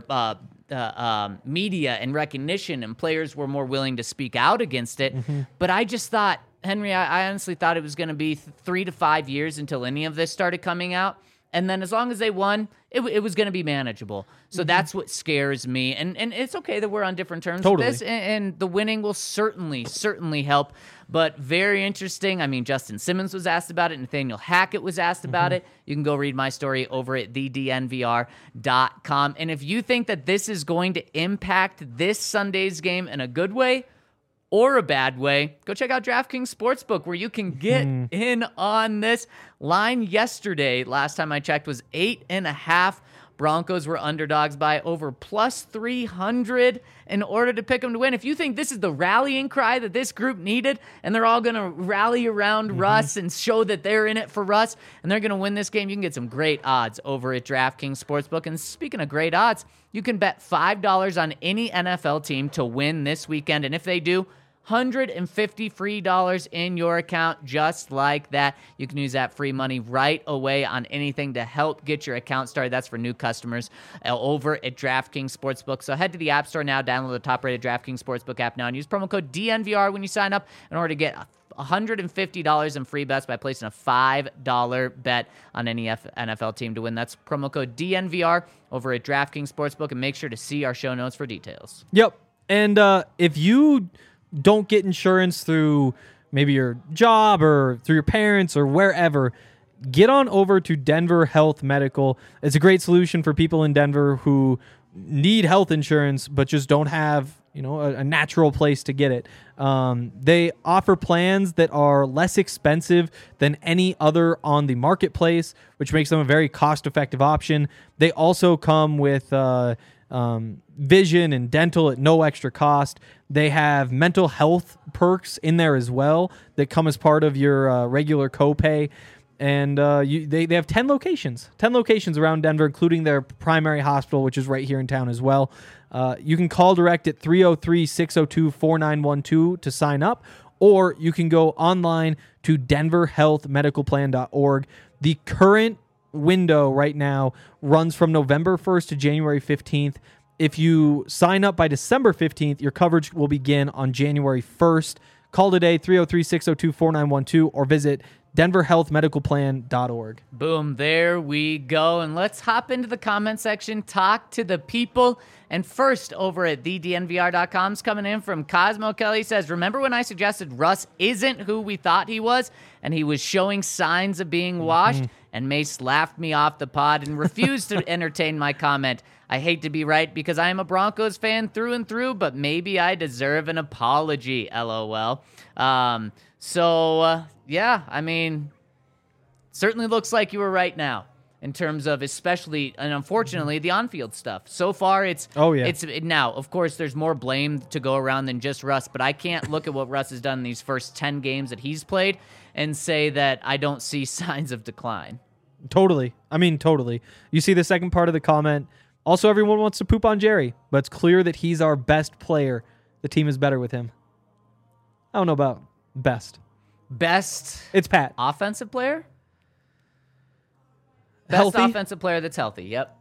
media and recognition, and players were more willing to speak out against it. But I just thought, Henry, I honestly thought it was going to be 3 to 5 years until any of this started coming out. And then as long as they won, it was going to be manageable. So that's what scares me. And it's okay that we're on different terms Totally. with this. And the winning will certainly help. But very interesting. I mean, Justin Simmons was asked about it. Nathaniel Hackett was asked about it. You can go read my story over at thednvr.com. And if you think that this is going to impact this Sunday's game in a good way or a bad way, go check out DraftKings Sportsbook, where you can get in on this. Line yesterday, last time I checked, was 8.5. Broncos were underdogs by over plus 300 in order to pick them to win. If you think this is the rallying cry that this group needed, and they're all going to rally around Russ and show that they're in it for Russ, and they're going to win this game, you can get some great odds over at DraftKings Sportsbook. And speaking of great odds, you can bet $5 on any NFL team to win this weekend. And if they do, $150 free in your account, just like that. You can use that free money right away on anything to help get your account started. That's for new customers over at DraftKings Sportsbook. So head to the App Store now, download the top-rated DraftKings Sportsbook app now, and use promo code DNVR when you sign up in order to get $150 in free bets by placing a $5 bet on any NFL team to win. That's promo code DNVR over at DraftKings Sportsbook, and make sure to see our show notes for details. Yep. And if you don't get insurance through maybe your job or through your parents or wherever, get on over to Denver Health Medical. It's a great solution for people in Denver who need health insurance but just don't have, a natural place to get it. They offer plans that are less expensive than any other on the marketplace, which makes them a very cost-effective option. They also come with vision and dental at no extra cost. They have mental health perks in there as well that come as part of your regular copay. And they have 10 locations around Denver, including their primary hospital, which is right here in town as well. You can call direct at 303-602-4912 to sign up, or you can go online to denverhealthmedicalplan.org. The current window right now runs from November 1st to January 15th. If you sign up by December 15th, your coverage will begin on January 1st. Call today, 303-602-4912, or visit denverhealthmedicalplan.org. Boom, there we go. And let's hop into the comment section, talk to the people. And first, over at thednvr.com's coming in from Cosmo Kelly says, remember when I suggested Russ isn't who we thought he was, and he was showing signs of being washed? And Mace laughed me off the pod and refused to entertain my comment. I hate to be right because I am a Broncos fan through and through, but maybe I deserve an apology, LOL. Yeah, I mean, certainly looks like you were right now in terms of especially, and unfortunately, the on-field stuff. So far, it's now, of course, there's more blame to go around than just Russ, but I can't look at what Russ has done in these first 10 games that he's played and say that I don't see signs of decline. Totally. I mean, totally. You see the second part of the comment. Also, everyone wants to poop on Jerry, but it's clear that he's our best player. The team is better with him. I don't know about best. Best It's Pat. offensive player? Best Healthy? offensive player that's healthy, yep.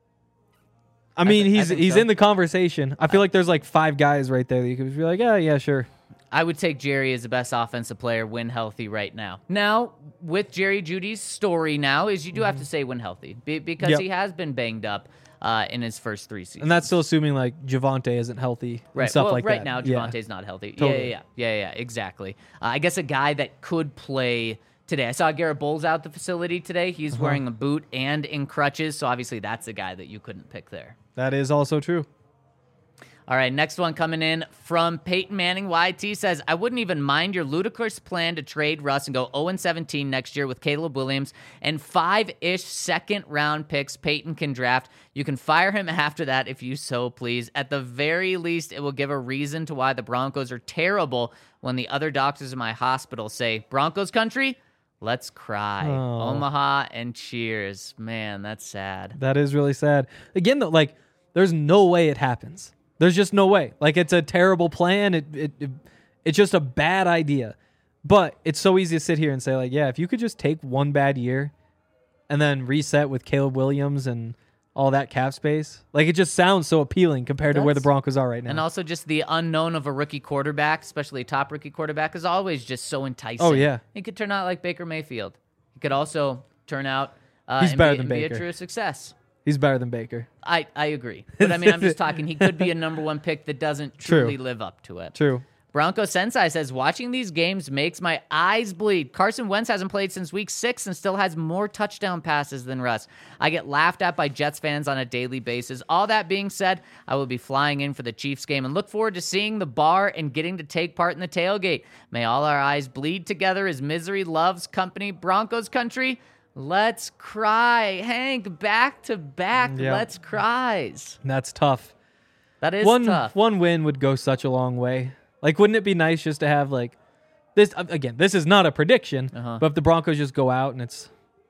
I mean, I he's think he's so. in the conversation. I feel like there's like 5 guys right there that you could be like, yeah, sure. I would take Jerry as the best offensive player when healthy right now. Now, with Jerry Judy's story now is you do have to say when healthy because Yep. he has been banged up in his first 3 seasons. And that's still assuming like Javonte isn't healthy and right. stuff well, like right that. now, Yeah. Javonte's not healthy. Totally. Yeah, exactly. I guess a guy that could play today. I saw Garrett Bowles out the facility today. He's wearing a boot and in crutches, so obviously that's a guy that you couldn't pick there. That is also true. All right, next one coming in from Peyton Manning. YT says, I wouldn't even mind your ludicrous plan to trade Russ and go 0-17 next year with Caleb Williams and 5-ish second-round picks Peyton can draft. You can fire him after that if you so please. At the very least, it will give a reason to why the Broncos are terrible when the other doctors in my hospital say, Broncos country, let's cry. Oh. Omaha and cheers. Man, that's sad. That is really sad. Again, though, like, there's no way it happens. There's just no way. Like, it's a terrible plan. It's just a bad idea. But it's so easy to sit here and say, like, yeah, if you could just take one bad year and then reset with Caleb Williams and all that cap space, like, it just sounds so appealing compared to where the Broncos are right now. And also just the unknown of a rookie quarterback, especially a top rookie quarterback, is always just so enticing. Oh, yeah. He could turn out like Baker Mayfield. He could also turn out He's and, better be, than and be a Baker. true success. He's better than Baker. I agree. But I mean, I'm just talking. He could be a number 1 pick that doesn't True. truly live up to it. True. Bronco Sensei says, watching these games makes my eyes bleed. Carson Wentz hasn't played since week 6 and still has more touchdown passes than Russ. I get laughed at by Jets fans on a daily basis. All that being said, I will be flying in for the Chiefs game and look forward to seeing the bar and getting to take part in the tailgate. May all our eyes bleed together as misery loves company. Broncos country, let's cry. Hank, back to back, Yeah. let's cries. That's tough. That is tough. One win would go such a long way. Like, wouldn't it be nice just to have, like, this, again, this is not a prediction, but if the Broncos just go out and it's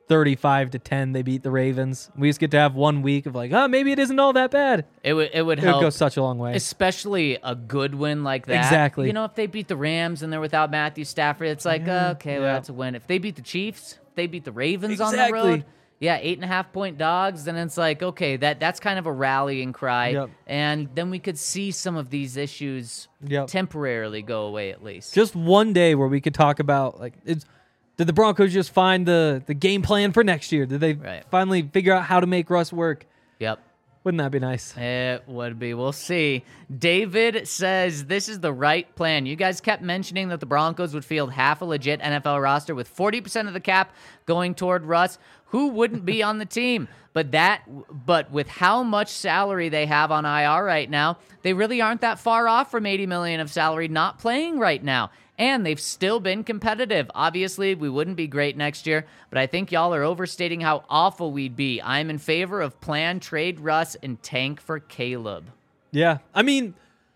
35-10, they beat the Ravens, we just get to have 1 week of like, maybe it isn't all that bad. It would It would help. go such a long way. Especially a good win like that. Exactly. You know, if they beat the Rams and they're without Matthew Stafford, it's like, okay, well, that's a win. If they beat the Chiefs, if they beat the Ravens on the Exactly. road, 8.5-point dogs, then it's like, okay, that's kind of a rallying cry. Yep. And then we could see some of these issues Yep. temporarily go away at least. Just one day where we could talk about, like, did the Broncos just find the game plan for next year? Did they Right. finally figure out how to make Russ work? Yep. Wouldn't that be nice? It would be. We'll see. David says this is the right plan. You guys kept mentioning that the Broncos would field half a legit NFL roster with 40% of the cap going toward Russ. Who wouldn't be on the team? But with how much salary they have on IR right now, they really aren't that far off from $80 million of salary not playing right now. And they've still been competitive. Obviously, we wouldn't be great next year, but I think y'all are overstating how awful we'd be. I'm in favor of plan, trade Russ, and tank for Caleb. Yeah. I mean,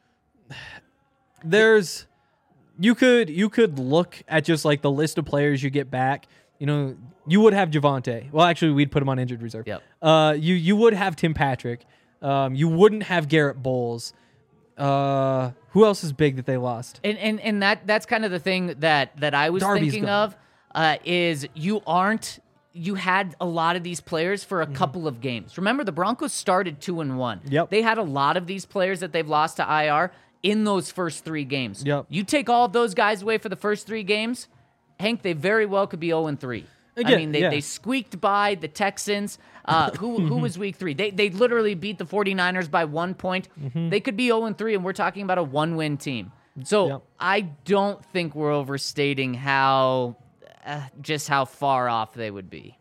you could look at just like the list of players you get back. You know, you would have Javonte. Well, actually, we'd put him on injured reserve. Yep. You would have Tim Patrick. You wouldn't have Garrett Bowles. Who else is big that they lost? And that's kind of the thing that I was Darby's thinking gone. of is you aren't you had a lot of these players for a couple of games. Remember, the Broncos started 2-1. Yep. They had a lot of these players that they've lost to IR in those first 3 games. Yep. You take all of those guys away for the first 3 games, Hank, they very well could be 0-3. I Again, mean, yeah. they squeaked by the Texans. Who was week 3? They literally beat the 49ers by 1 point. They could be 0-3, and we're talking about a 1-win team. So Yep. I don't think we're overstating how far off they would be.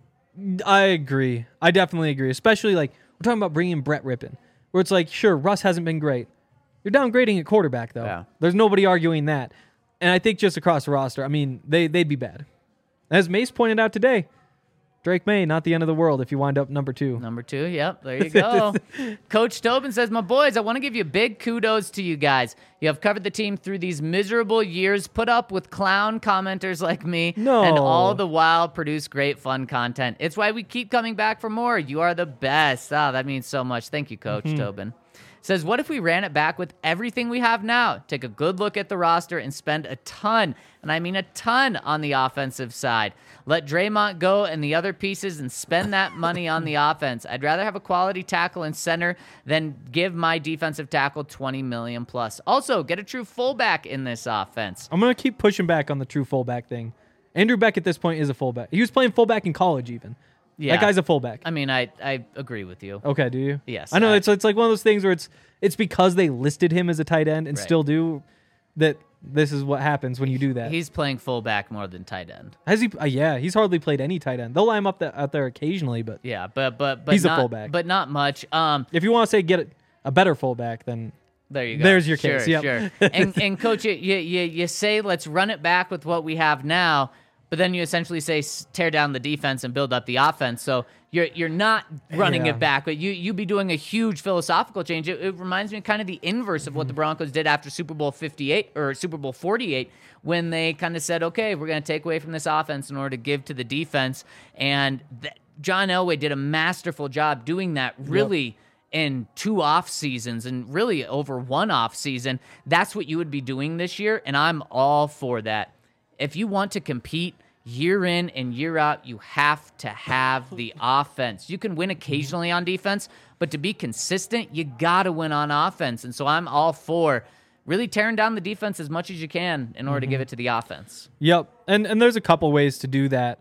I agree. I definitely agree. Especially like we're talking about bringing Brett Rippon, where it's like, sure, Russ hasn't been great. You're downgrading at quarterback though. Yeah. There's nobody arguing that. And I think just across the roster, I mean, they'd be bad. As Mace pointed out today, Drake May, not the end of the world if you wind up number 2. Number 2, yep, there you go. Coach Tobin says, my boys, I want to give you big kudos to you guys. You have covered the team through these miserable years, put up with clown commenters like me, No. and all the while produce great fun content. It's why we keep coming back for more. You are the best. Oh, that means so much. Thank you, Coach Tobin. Says, what if we ran it back with everything we have now? Take a good look at the roster and spend a ton, and I mean a ton, on the offensive side. Let Draymond go and the other pieces and spend that money on the offense. I'd rather have a quality tackle and center than give my defensive tackle $20 million plus. Also, get a true fullback in this offense. I'm going to keep pushing back on the true fullback thing. Andrew Beck at this point is a fullback. He was playing fullback in college even. Yeah. That guy's a fullback. I mean, I agree with you. Okay, do you? Yes, I know I- it's like one of those things where it's because they listed him as a tight end and Right. still do that. This is what happens when you do that. He's playing fullback more than tight end. Has he? Yeah, he's hardly played any tight end. They'll line him up out there occasionally, but Yeah, but He's a not, fullback. but not much. if you want to say get a better fullback, then There you go. There's your Sure, case, yep. Sure. And coach, you say let's run it back with what we have now, but then you essentially say tear down the defense and build up the offense. So you're not running Yeah. it back, but you be doing a huge philosophical change. It reminds me of kind of the inverse of what the Broncos did after Super Bowl 58 or Super Bowl 48, when they kind of said, okay, we're going to take away from this offense in order to give to the defense. And John Elway did a masterful job doing that. Really. In 2 off seasons and really over 1 off season. That's what you would be doing this year, and I'm all for that. If you want to compete year in and year out, you have to have the offense. You can win occasionally on defense, but to be consistent, you got to win on offense. And so I'm all for really tearing down the defense as much as you can in order to give it to the offense. Yep, and there's a couple ways to do that.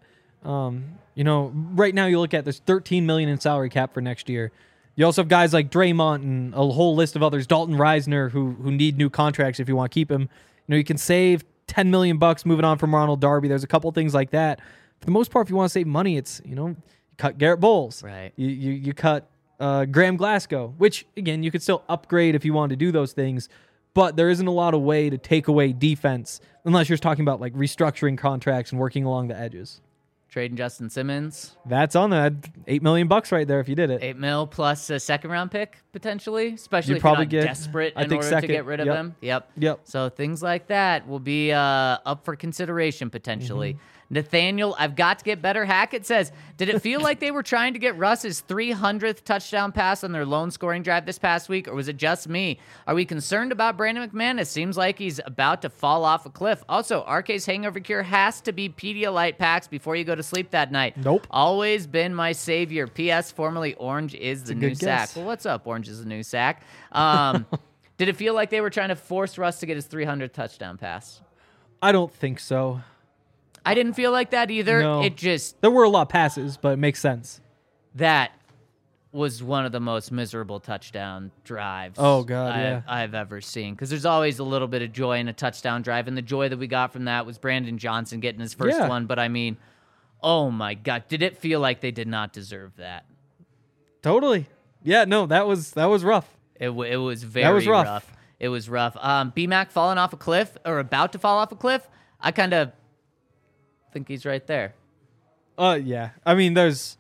Right now you look at there's $13 million in salary cap for next year. You also have guys like Draymond and a whole list of others, Dalton Reisner, who need new contracts if you want to keep him. You can save $10 million moving on from Ronald Darby. There's a couple things like that. For the most part, if you want to save money, it's you cut Garrett Bowles. Right. You cut Graham Glasgow, which again you could still upgrade if you wanted to do those things. But there isn't a lot of way to take away defense unless you're talking about like restructuring contracts and working along the edges. Trading Justin Simmons, That's on that $8 million right there if you did it. $8 million plus a 2nd-round pick potentially, especially You'd if you're probably not get, desperate I in think, order to second. get rid of Yep. him. Yep. Yep. So things like that will be up for consideration potentially. Nathaniel, I've got to get better. Hackett says, did it feel like they were trying to get Russ's 300th touchdown pass on their lone scoring drive this past week, or was it just me? Are we concerned about Brandon McManus? Seems like he's about to fall off a cliff. Also, RK's hangover cure has to be Pedialyte packs before you go to sleep that night. Nope. Always been my savior. P.S. Formerly Orange is the a new good sack. guess. Well, what's up? Orange is the new sack. Did it feel like they were trying to force Russ to get his 300th touchdown pass? I don't think so. I didn't feel like that either. No. It just, There were a lot of passes, but it makes sense. that was one of the most miserable touchdown drives Oh, God, yeah. I've ever seen. Because there's always a little bit of joy in a touchdown drive, and the joy that we got from that was Brandon Johnson getting his first Yeah. one. But I mean, oh my God, did it feel like they did not deserve that? Totally. Yeah, no, that was rough. It was very was rough. rough. It was rough. B-Mac falling off a cliff or about to fall off a cliff. I kind of think he's right there. Yeah. I mean,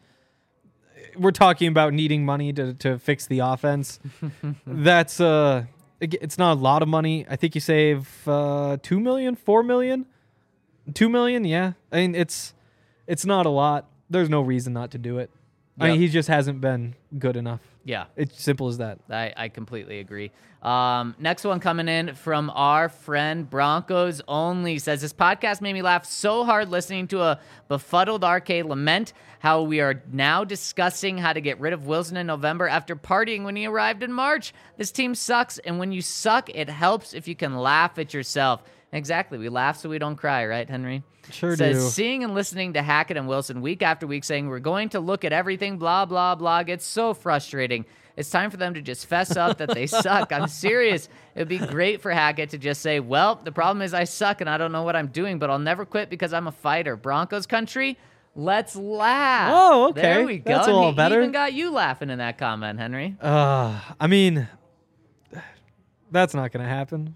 we're talking about needing money to fix the offense. That's it's not a lot of money. I think you save $2 million, $4 million, $2 million. Yeah. I mean, it's not a lot. There's no reason not to do it. I mean, Yep. he just hasn't been good enough. Yeah. It's simple as that. I completely agree. Next one coming in from our friend Broncos Only says, this podcast made me laugh so hard listening to a befuddled RK lament how we are now discussing how to get rid of Wilson in November after partying when he arrived in March. This team sucks, and when you suck, it helps if you can laugh at yourself. Exactly. We laugh so we don't cry, right, Henry? Sure Says, do. seeing and listening to Hackett and Wilson week after week saying we're going to look at everything, blah, blah, blah, gets so frustrating. It's time for them to just fess up that they suck. I'm serious. It would be great for Hackett to just say, well, the problem is I suck and I don't know what I'm doing, but I'll never quit because I'm a fighter. Broncos country, let's laugh. Oh, okay. There we go. That's a And little he better. even got you laughing in that comment, Henry. I mean, that's not going to happen.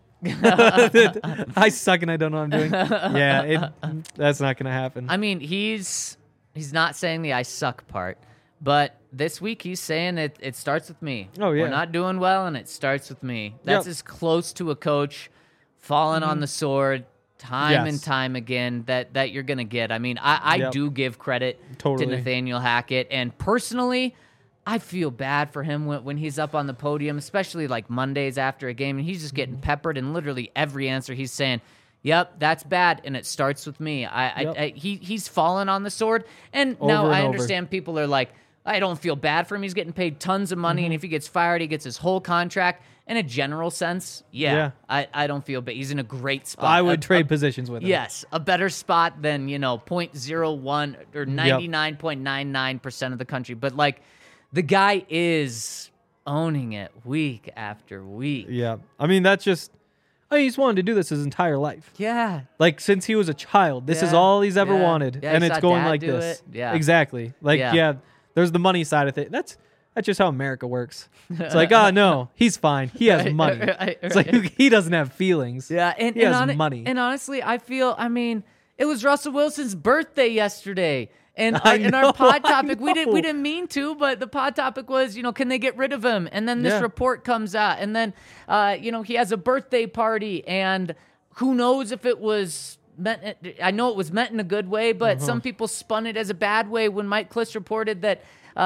I suck and I don't know what I'm doing. Yeah, that's not going to happen. I mean, he's not saying the I suck part, but this week he's saying it starts with me. Oh, yeah. We're not doing well, and it starts with me. That's Yep. as close to a coach falling on the sword time Yes. and time again that you're going to get. I mean, I Yep. do give credit Totally. to Nathaniel Hackett, and personally, I feel bad for him when he's up on the podium, especially like Mondays after a game, and he's just getting peppered, and literally every answer he's saying, yep, that's bad, and it starts with me. He's fallen on the sword, and now Over and I over. understand people are like, I don't feel bad for him. He's getting paid tons of money, and if he gets fired, he gets his whole contract. In a general sense, Yeah. I don't feel bad. He's in a great spot. I would trade positions with him. Yes, a better spot than 0.01 or 99.99% of the country. But like, the guy is owning it week after week. Yeah. I mean, he's wanted to do this his entire life. Yeah. Like, since he was a child, this is Yeah. all he's ever Yeah. wanted. Yeah, And he it's saw going Dad like do this. it. Yeah. Exactly. Like, Yeah. yeah, there's the money side of it. That's just how America works. It's like, oh, no, he's fine. He has Right, money. right, It's like, he doesn't have feelings. Yeah, and he has hon- money. And honestly, I mean, it was Russell Wilson's birthday yesterday. And I in our know, pod I topic, we know. didn't mean to, but the pod topic was, can they get rid of him? And then this Yeah. report comes out, and then he has a birthday party, and who knows if it was meant. I know it was meant in a good way, but Uh-huh. some people spun it as a bad way when Mike Kliss reported that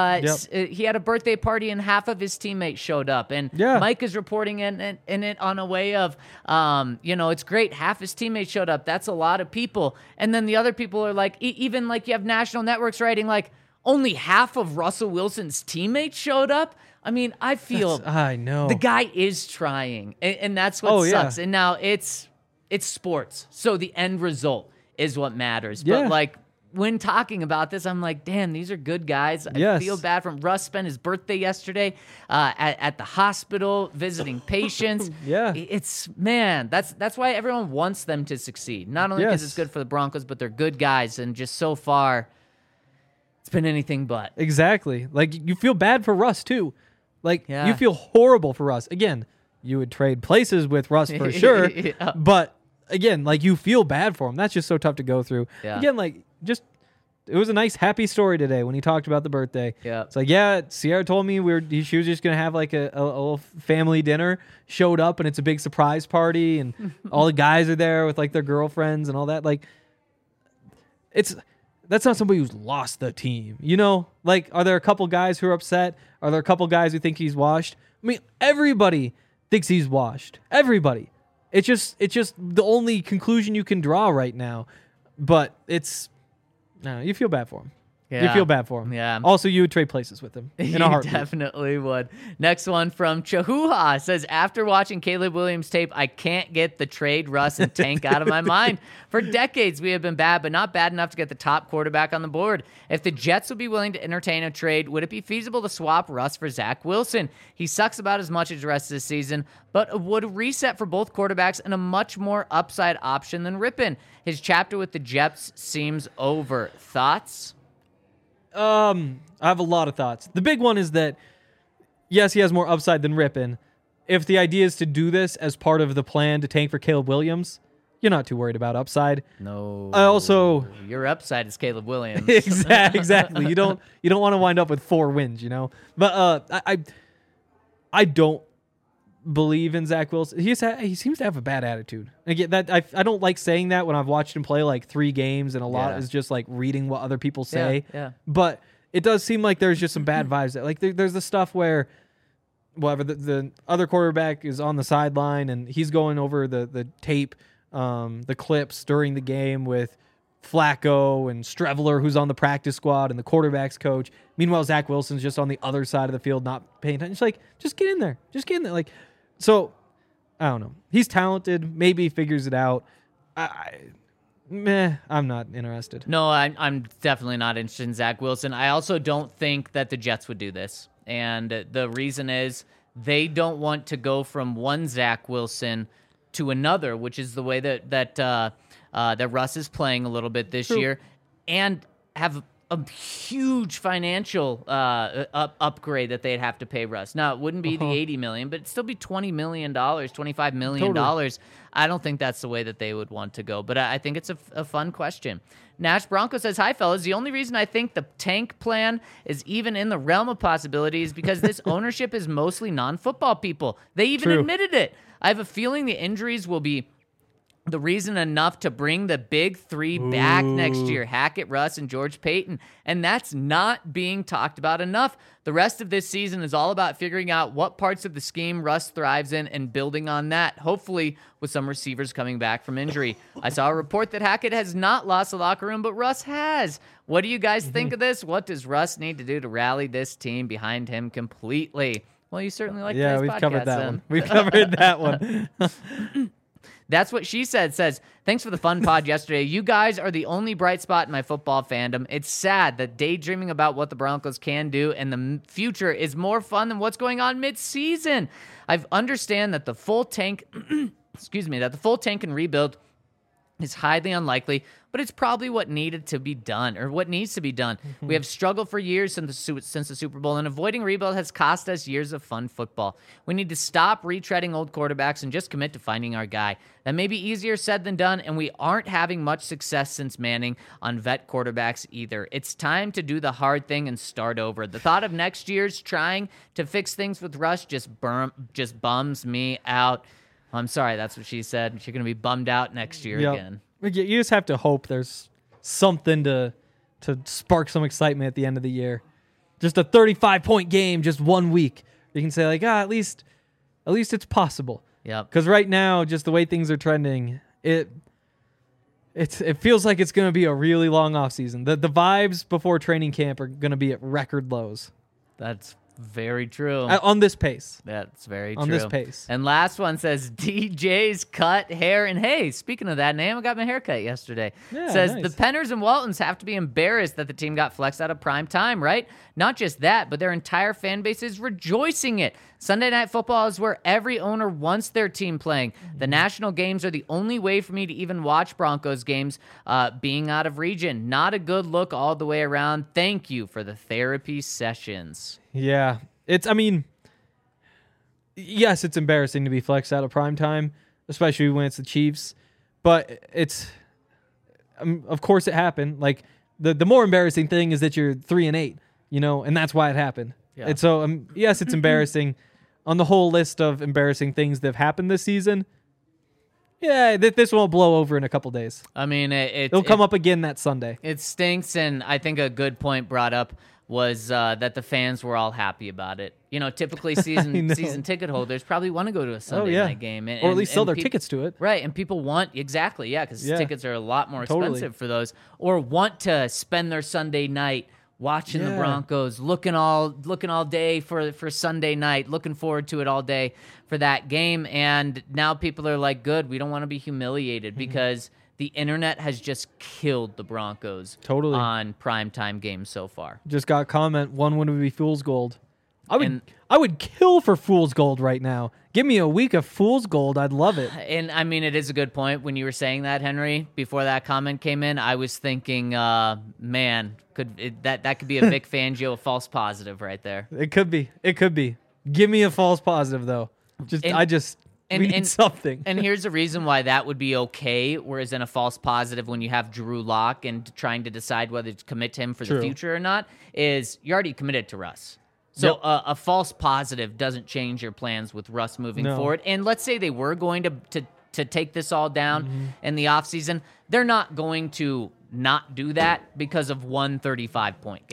he had a birthday party and half of his teammates showed up, and Yeah. Mike is reporting in it on a way of, it's great. Half his teammates showed up. That's a lot of people. And then the other people are like, even like you have national networks writing like only half of Russell Wilson's teammates showed up. I mean, I feel I know. the guy is trying, and that's what Oh, yeah. sucks. And now it's sports, so the end result is what matters. Yeah. But like, when talking about this, I'm like, damn, these are good guys. I Yes. feel bad for him. Russ spent his birthday yesterday at the hospital visiting patients. Yeah. That's why everyone wants them to succeed. Not only because Yes. it's good for the Broncos, but they're good guys. And just so far, it's been anything but. Exactly. Like, you feel bad for Russ, too. Like, Yeah. you feel horrible for Russ. Again, you would trade places with Russ for sure. Yeah. But, again, like, you feel bad for him. That's just so tough to go through. Yeah. Again, like, it was a nice, happy story today when he talked about the birthday. Yeah. It's like, yeah, Sierra told me she was just going to have, like, a little family dinner. Showed up, and it's a big surprise party, and all the guys are there with, like, their girlfriends and all that. Like, that's not somebody who's lost the team, Like, are there a couple guys who are upset? Are there a couple guys who think he's washed? I mean, everybody thinks he's washed. Everybody. It's just the only conclusion you can draw right now. But you feel bad for him. You Yeah. feel bad for him. Yeah. Also, you would trade places with him in a You heartbeat. definitely would. Next one from Chahuha says, after watching Caleb Williams tape, I can't get the trade Russ and Tank out of my mind. For decades, we have been bad, but not bad enough to get the top quarterback on the board. If the Jets would be willing to entertain a trade, would it be feasible to swap Russ for Zach Wilson? He sucks about as much as the rest of the season, but would a reset for both quarterbacks and a much more upside option than Rippin. His chapter with the Jets seems over. Thoughts? I have a lot of thoughts. The big one is that, yes, he has more upside than Rippin. If the idea is to do this as part of the plan to tank for Caleb Williams, you're not too worried about upside. No. I also Your upside is Caleb Williams. exactly. You don't want to wind up with 4 wins, But I don't believe in Zach Wilson. He seems to have a bad attitude. Again, that I don't like saying that when I've watched him play like 3 games, and a lot Yeah. is just like reading what other people say. Yeah. But it does seem like there's just some bad vibes. Like there's the stuff where, whatever, the other quarterback is on the sideline and he's going over the tape, the clips during the game with Flacco and Streveler, who's on the practice squad, and the quarterback's coach. Meanwhile, Zach Wilson's just on the other side of the field, not paying attention. It's like, just get in there. Just get in there. Like, so, I don't know. He's talented. Maybe he figures it out. I'm not interested. No, I'm definitely not interested in Zach Wilson. I also don't think that the Jets would do this. And the reason is they don't want to go from one Zach Wilson to another, which is the way that Russ is playing a little bit this year, and have a huge financial upgrade that they'd have to pay Russ. Now, it wouldn't be the $80 million, but it'd still be $20 million, $25 million. Totally. I don't think that's the way that they would want to go, but I think it's a fun question. Nash Bronco says, hi, fellas. The only reason I think the tank plan is even in the realm of possibilities because this ownership is mostly non-football people. They even admitted it. I have a feeling the injuries will be the reason enough to bring the big three back next year, Hackett, Russ, and George Payton. And that's not being talked about enough. The rest of this season is all about figuring out what parts of the scheme Russ thrives in and building on that, hopefully with some receivers coming back from injury. I saw a report that Hackett has not lost the locker room, but Russ has. What do you guys think of this? What does Russ need to do to rally this team behind him completely? Well, you certainly like yeah, today's we've podcast, covered that then. one. We've covered that one. That's what she says, thanks for the fun pod yesterday. You guys are the only bright spot in my football fandom. It's sad that daydreaming about what the Broncos can do in the future is more fun than what's going on mid-season. I understand that the full tank, that the full tank and rebuild is highly unlikely, but it's probably what needed to be done, or what needs to be done. We have struggled for years since the Super Bowl, and avoiding rebuild has cost us years of fun football. We need to stop retreading old quarterbacks and just commit to finding our guy. That may be easier said than done, and we aren't having much success since Manning on vet quarterbacks either. It's time to do the hard thing and start over. The thought of next year's trying to fix things with Russ just bums me out. I'm sorry, that's what she said. She's going to be bummed out next year again. You just have to hope there's something to spark some excitement at the end of the year. Just a 35-point game, just 1 week. You can say, like, at least it's possible. Yeah. Because right now, just the way things are trending, it feels like it's going to be a really long offseason. The vibes before training camp are going to be at record lows. That's very true. On this pace. That's very true. On this pace. And last one says, DJ's cut hair. And hey, speaking of that name, I got my hair cut yesterday. Yeah, says, nice. the Penners and Waltons have to be embarrassed that the team got flexed out of prime time, right? Not just that, but their entire fan base is rejoicing it. Sunday Night Football is where every owner wants their team playing. The national games are the only way for me to even watch Broncos games being out of region. Not a good look all the way around. Thank you for the therapy sessions. Yeah. Yes, it's embarrassing to be flexed out of prime time, especially when it's the Chiefs. But of course it happened. Like, the more embarrassing thing is that you're 3-8, and that's why it happened. Yeah. And so, yes, it's embarrassing. On the whole list of embarrassing things that have happened this season, yeah, this won't blow over in a couple days. It'll come up again that Sunday. It stinks, and I think a good point brought up was that the fans were all happy about it. Typically season ticket holders probably want to go to a Sunday night game. Or at least sell their tickets to it. Right, and people want, because tickets are a lot more expensive Totally. for those, or want to spend their Sunday night watching the Broncos, looking all day for Sunday night, looking forward to it all day for that game. And now people are like, good, we don't want to be humiliated because the internet has just killed the Broncos on primetime games so far. Just got a comment, one would be Fool's Gold. I would kill for Fool's Gold right now. Give me a week of Fool's Gold. I'd love it. And it is a good point. When you were saying that, Henry, before that comment came in, I was thinking, that could be a Vic Fangio false positive right there. It could be. Give me a false positive though. We need something. And here's the reason why that would be okay, whereas in a false positive when you have Drew Lock and trying to decide whether to commit to him for the future or not, is you're already committed to Russ. So a false positive doesn't change your plans with Russ moving forward. And let's say they were going to take this all down in the offseason. They're not going to not do that because of one 35-point game.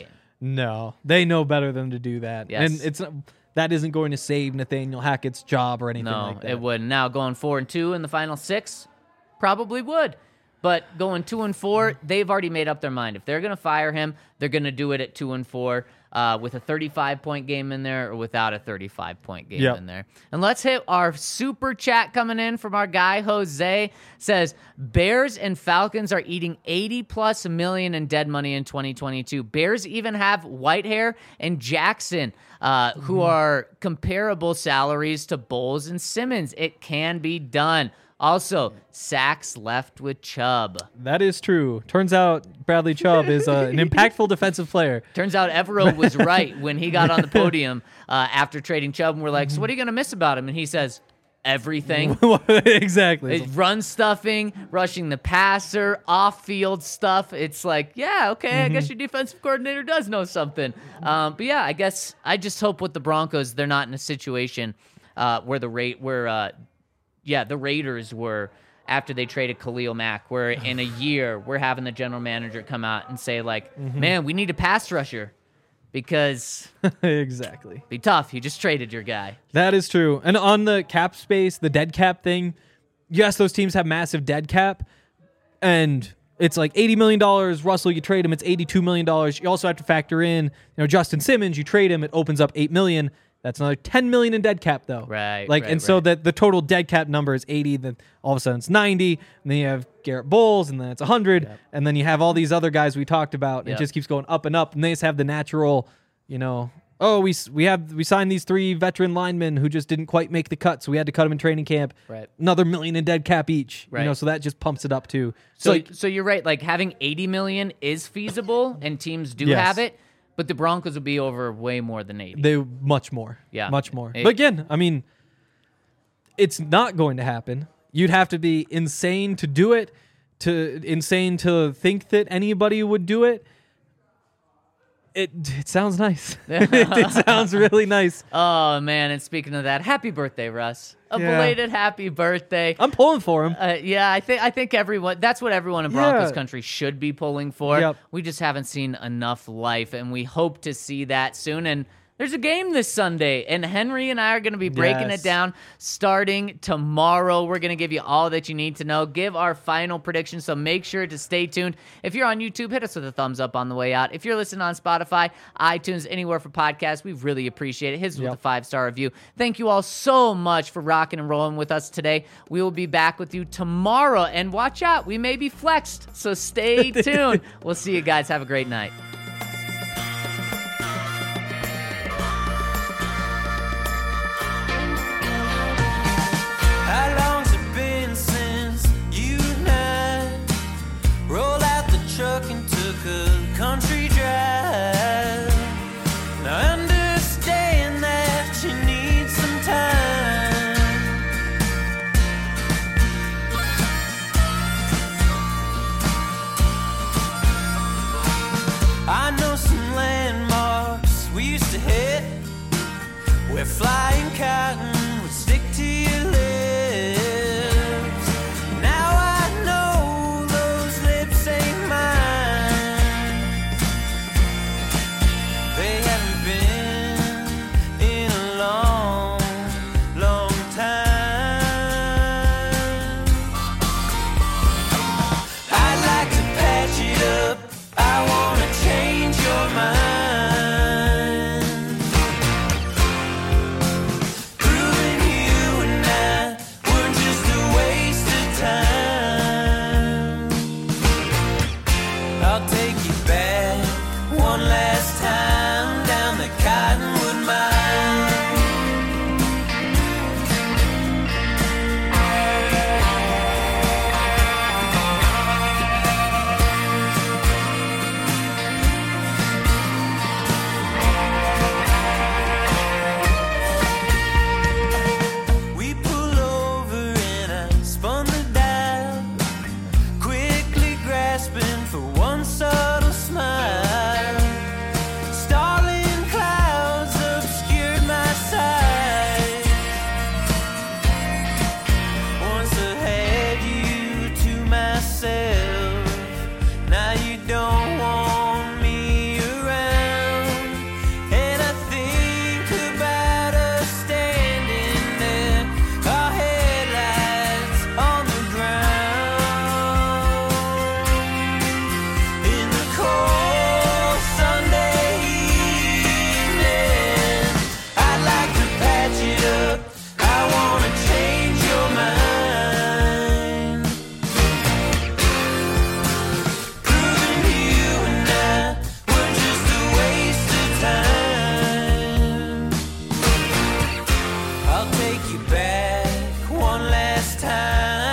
No, they know better than to do that. Yes. And that isn't going to save Nathaniel Hackett's job or anything No, like that. it wouldn't. Now going 4-2 in the final 6, probably would. But going 2-4, they've already made up their mind. If they're going to fire him, they're going to do it at 2-4 with a 35-point game in there or without a 35-point game Yep. in there. And let's hit our super chat coming in from our guy Jose. Says Bears and Falcons are eating $80+ million in dead money in 2022. Bears even have Whitehair and Jackson, who are comparable salaries to Bowles and Simmons. It can be done. Also, sacks left with Chubb. That is true. Turns out Bradley Chubb is an impactful defensive player. Turns out Evero was right when he got on the podium after trading Chubb, and we're like, so what are you going to miss about him? And he says, everything. Exactly. It's run stuffing, rushing the passer, off-field stuff. It's like, yeah, okay, I guess your defensive coordinator does know something. But yeah, I guess I just hope with the Broncos they're not in a situation where the Raiders were after they traded Khalil Mack, where in a year we're having the general manager come out and say, like, man, we need a pass rusher because Exactly. be tough. You just traded your guy. That is true. And on the cap space, the dead cap thing, yes, those teams have massive dead cap, and it's like $80 million. Russell, you trade him, it's $82 million. You also have to factor in, Justin Simmons, you trade him, it opens up $8 million. That's another $10 million in dead cap, though. Right, Like, right, and so right. that the total dead cap number is 80. Then all of a sudden it's 90. And then you have Garrett Bowles, and then it's 100. And then you have all these other guys we talked about. And Yep. it just keeps going up and up. And they just have the natural, we signed these 3 veteran linemen who just didn't quite make the cut, so we had to cut them in training camp. Right. Another $1 million in dead cap each. Right. So that just pumps it up too. So you're right. Like having $80 million is feasible, and teams do Yes. have it. But the Broncos will be over way more than 80. They much more. Yeah. Much more. It- But again, I mean, it's not going to happen. You'd have to be insane to do it, insane to think that anybody would do it. It sounds nice. it sounds really nice. Oh man! And speaking of that, happy birthday, Russ! A Yeah. belated happy birthday. I'm pulling for him. Yeah, I think everyone. That's what everyone in Broncos Yeah. country should be pulling for. Yep. We just haven't seen enough life, and we hope to see that soon. And there's a game this Sunday, and Henry and I are going to be breaking Yes. it down starting tomorrow. We're going to give you all that you need to know, give our final predictions, so make sure to stay tuned. If you're on YouTube, hit us with a thumbs up on the way out. If you're listening on Spotify, iTunes, anywhere for podcasts, we really appreciate it. Hit us with a 5-star review. Thank you all so much for rocking and rolling with us today. We will be back with you tomorrow, and watch out, we may be flexed, so stay tuned. We'll see you guys. Have a great night. How long's it been since you and I rolled out the truck and took a country drive? Now I understand that you need some time. I I'll take you back one last time.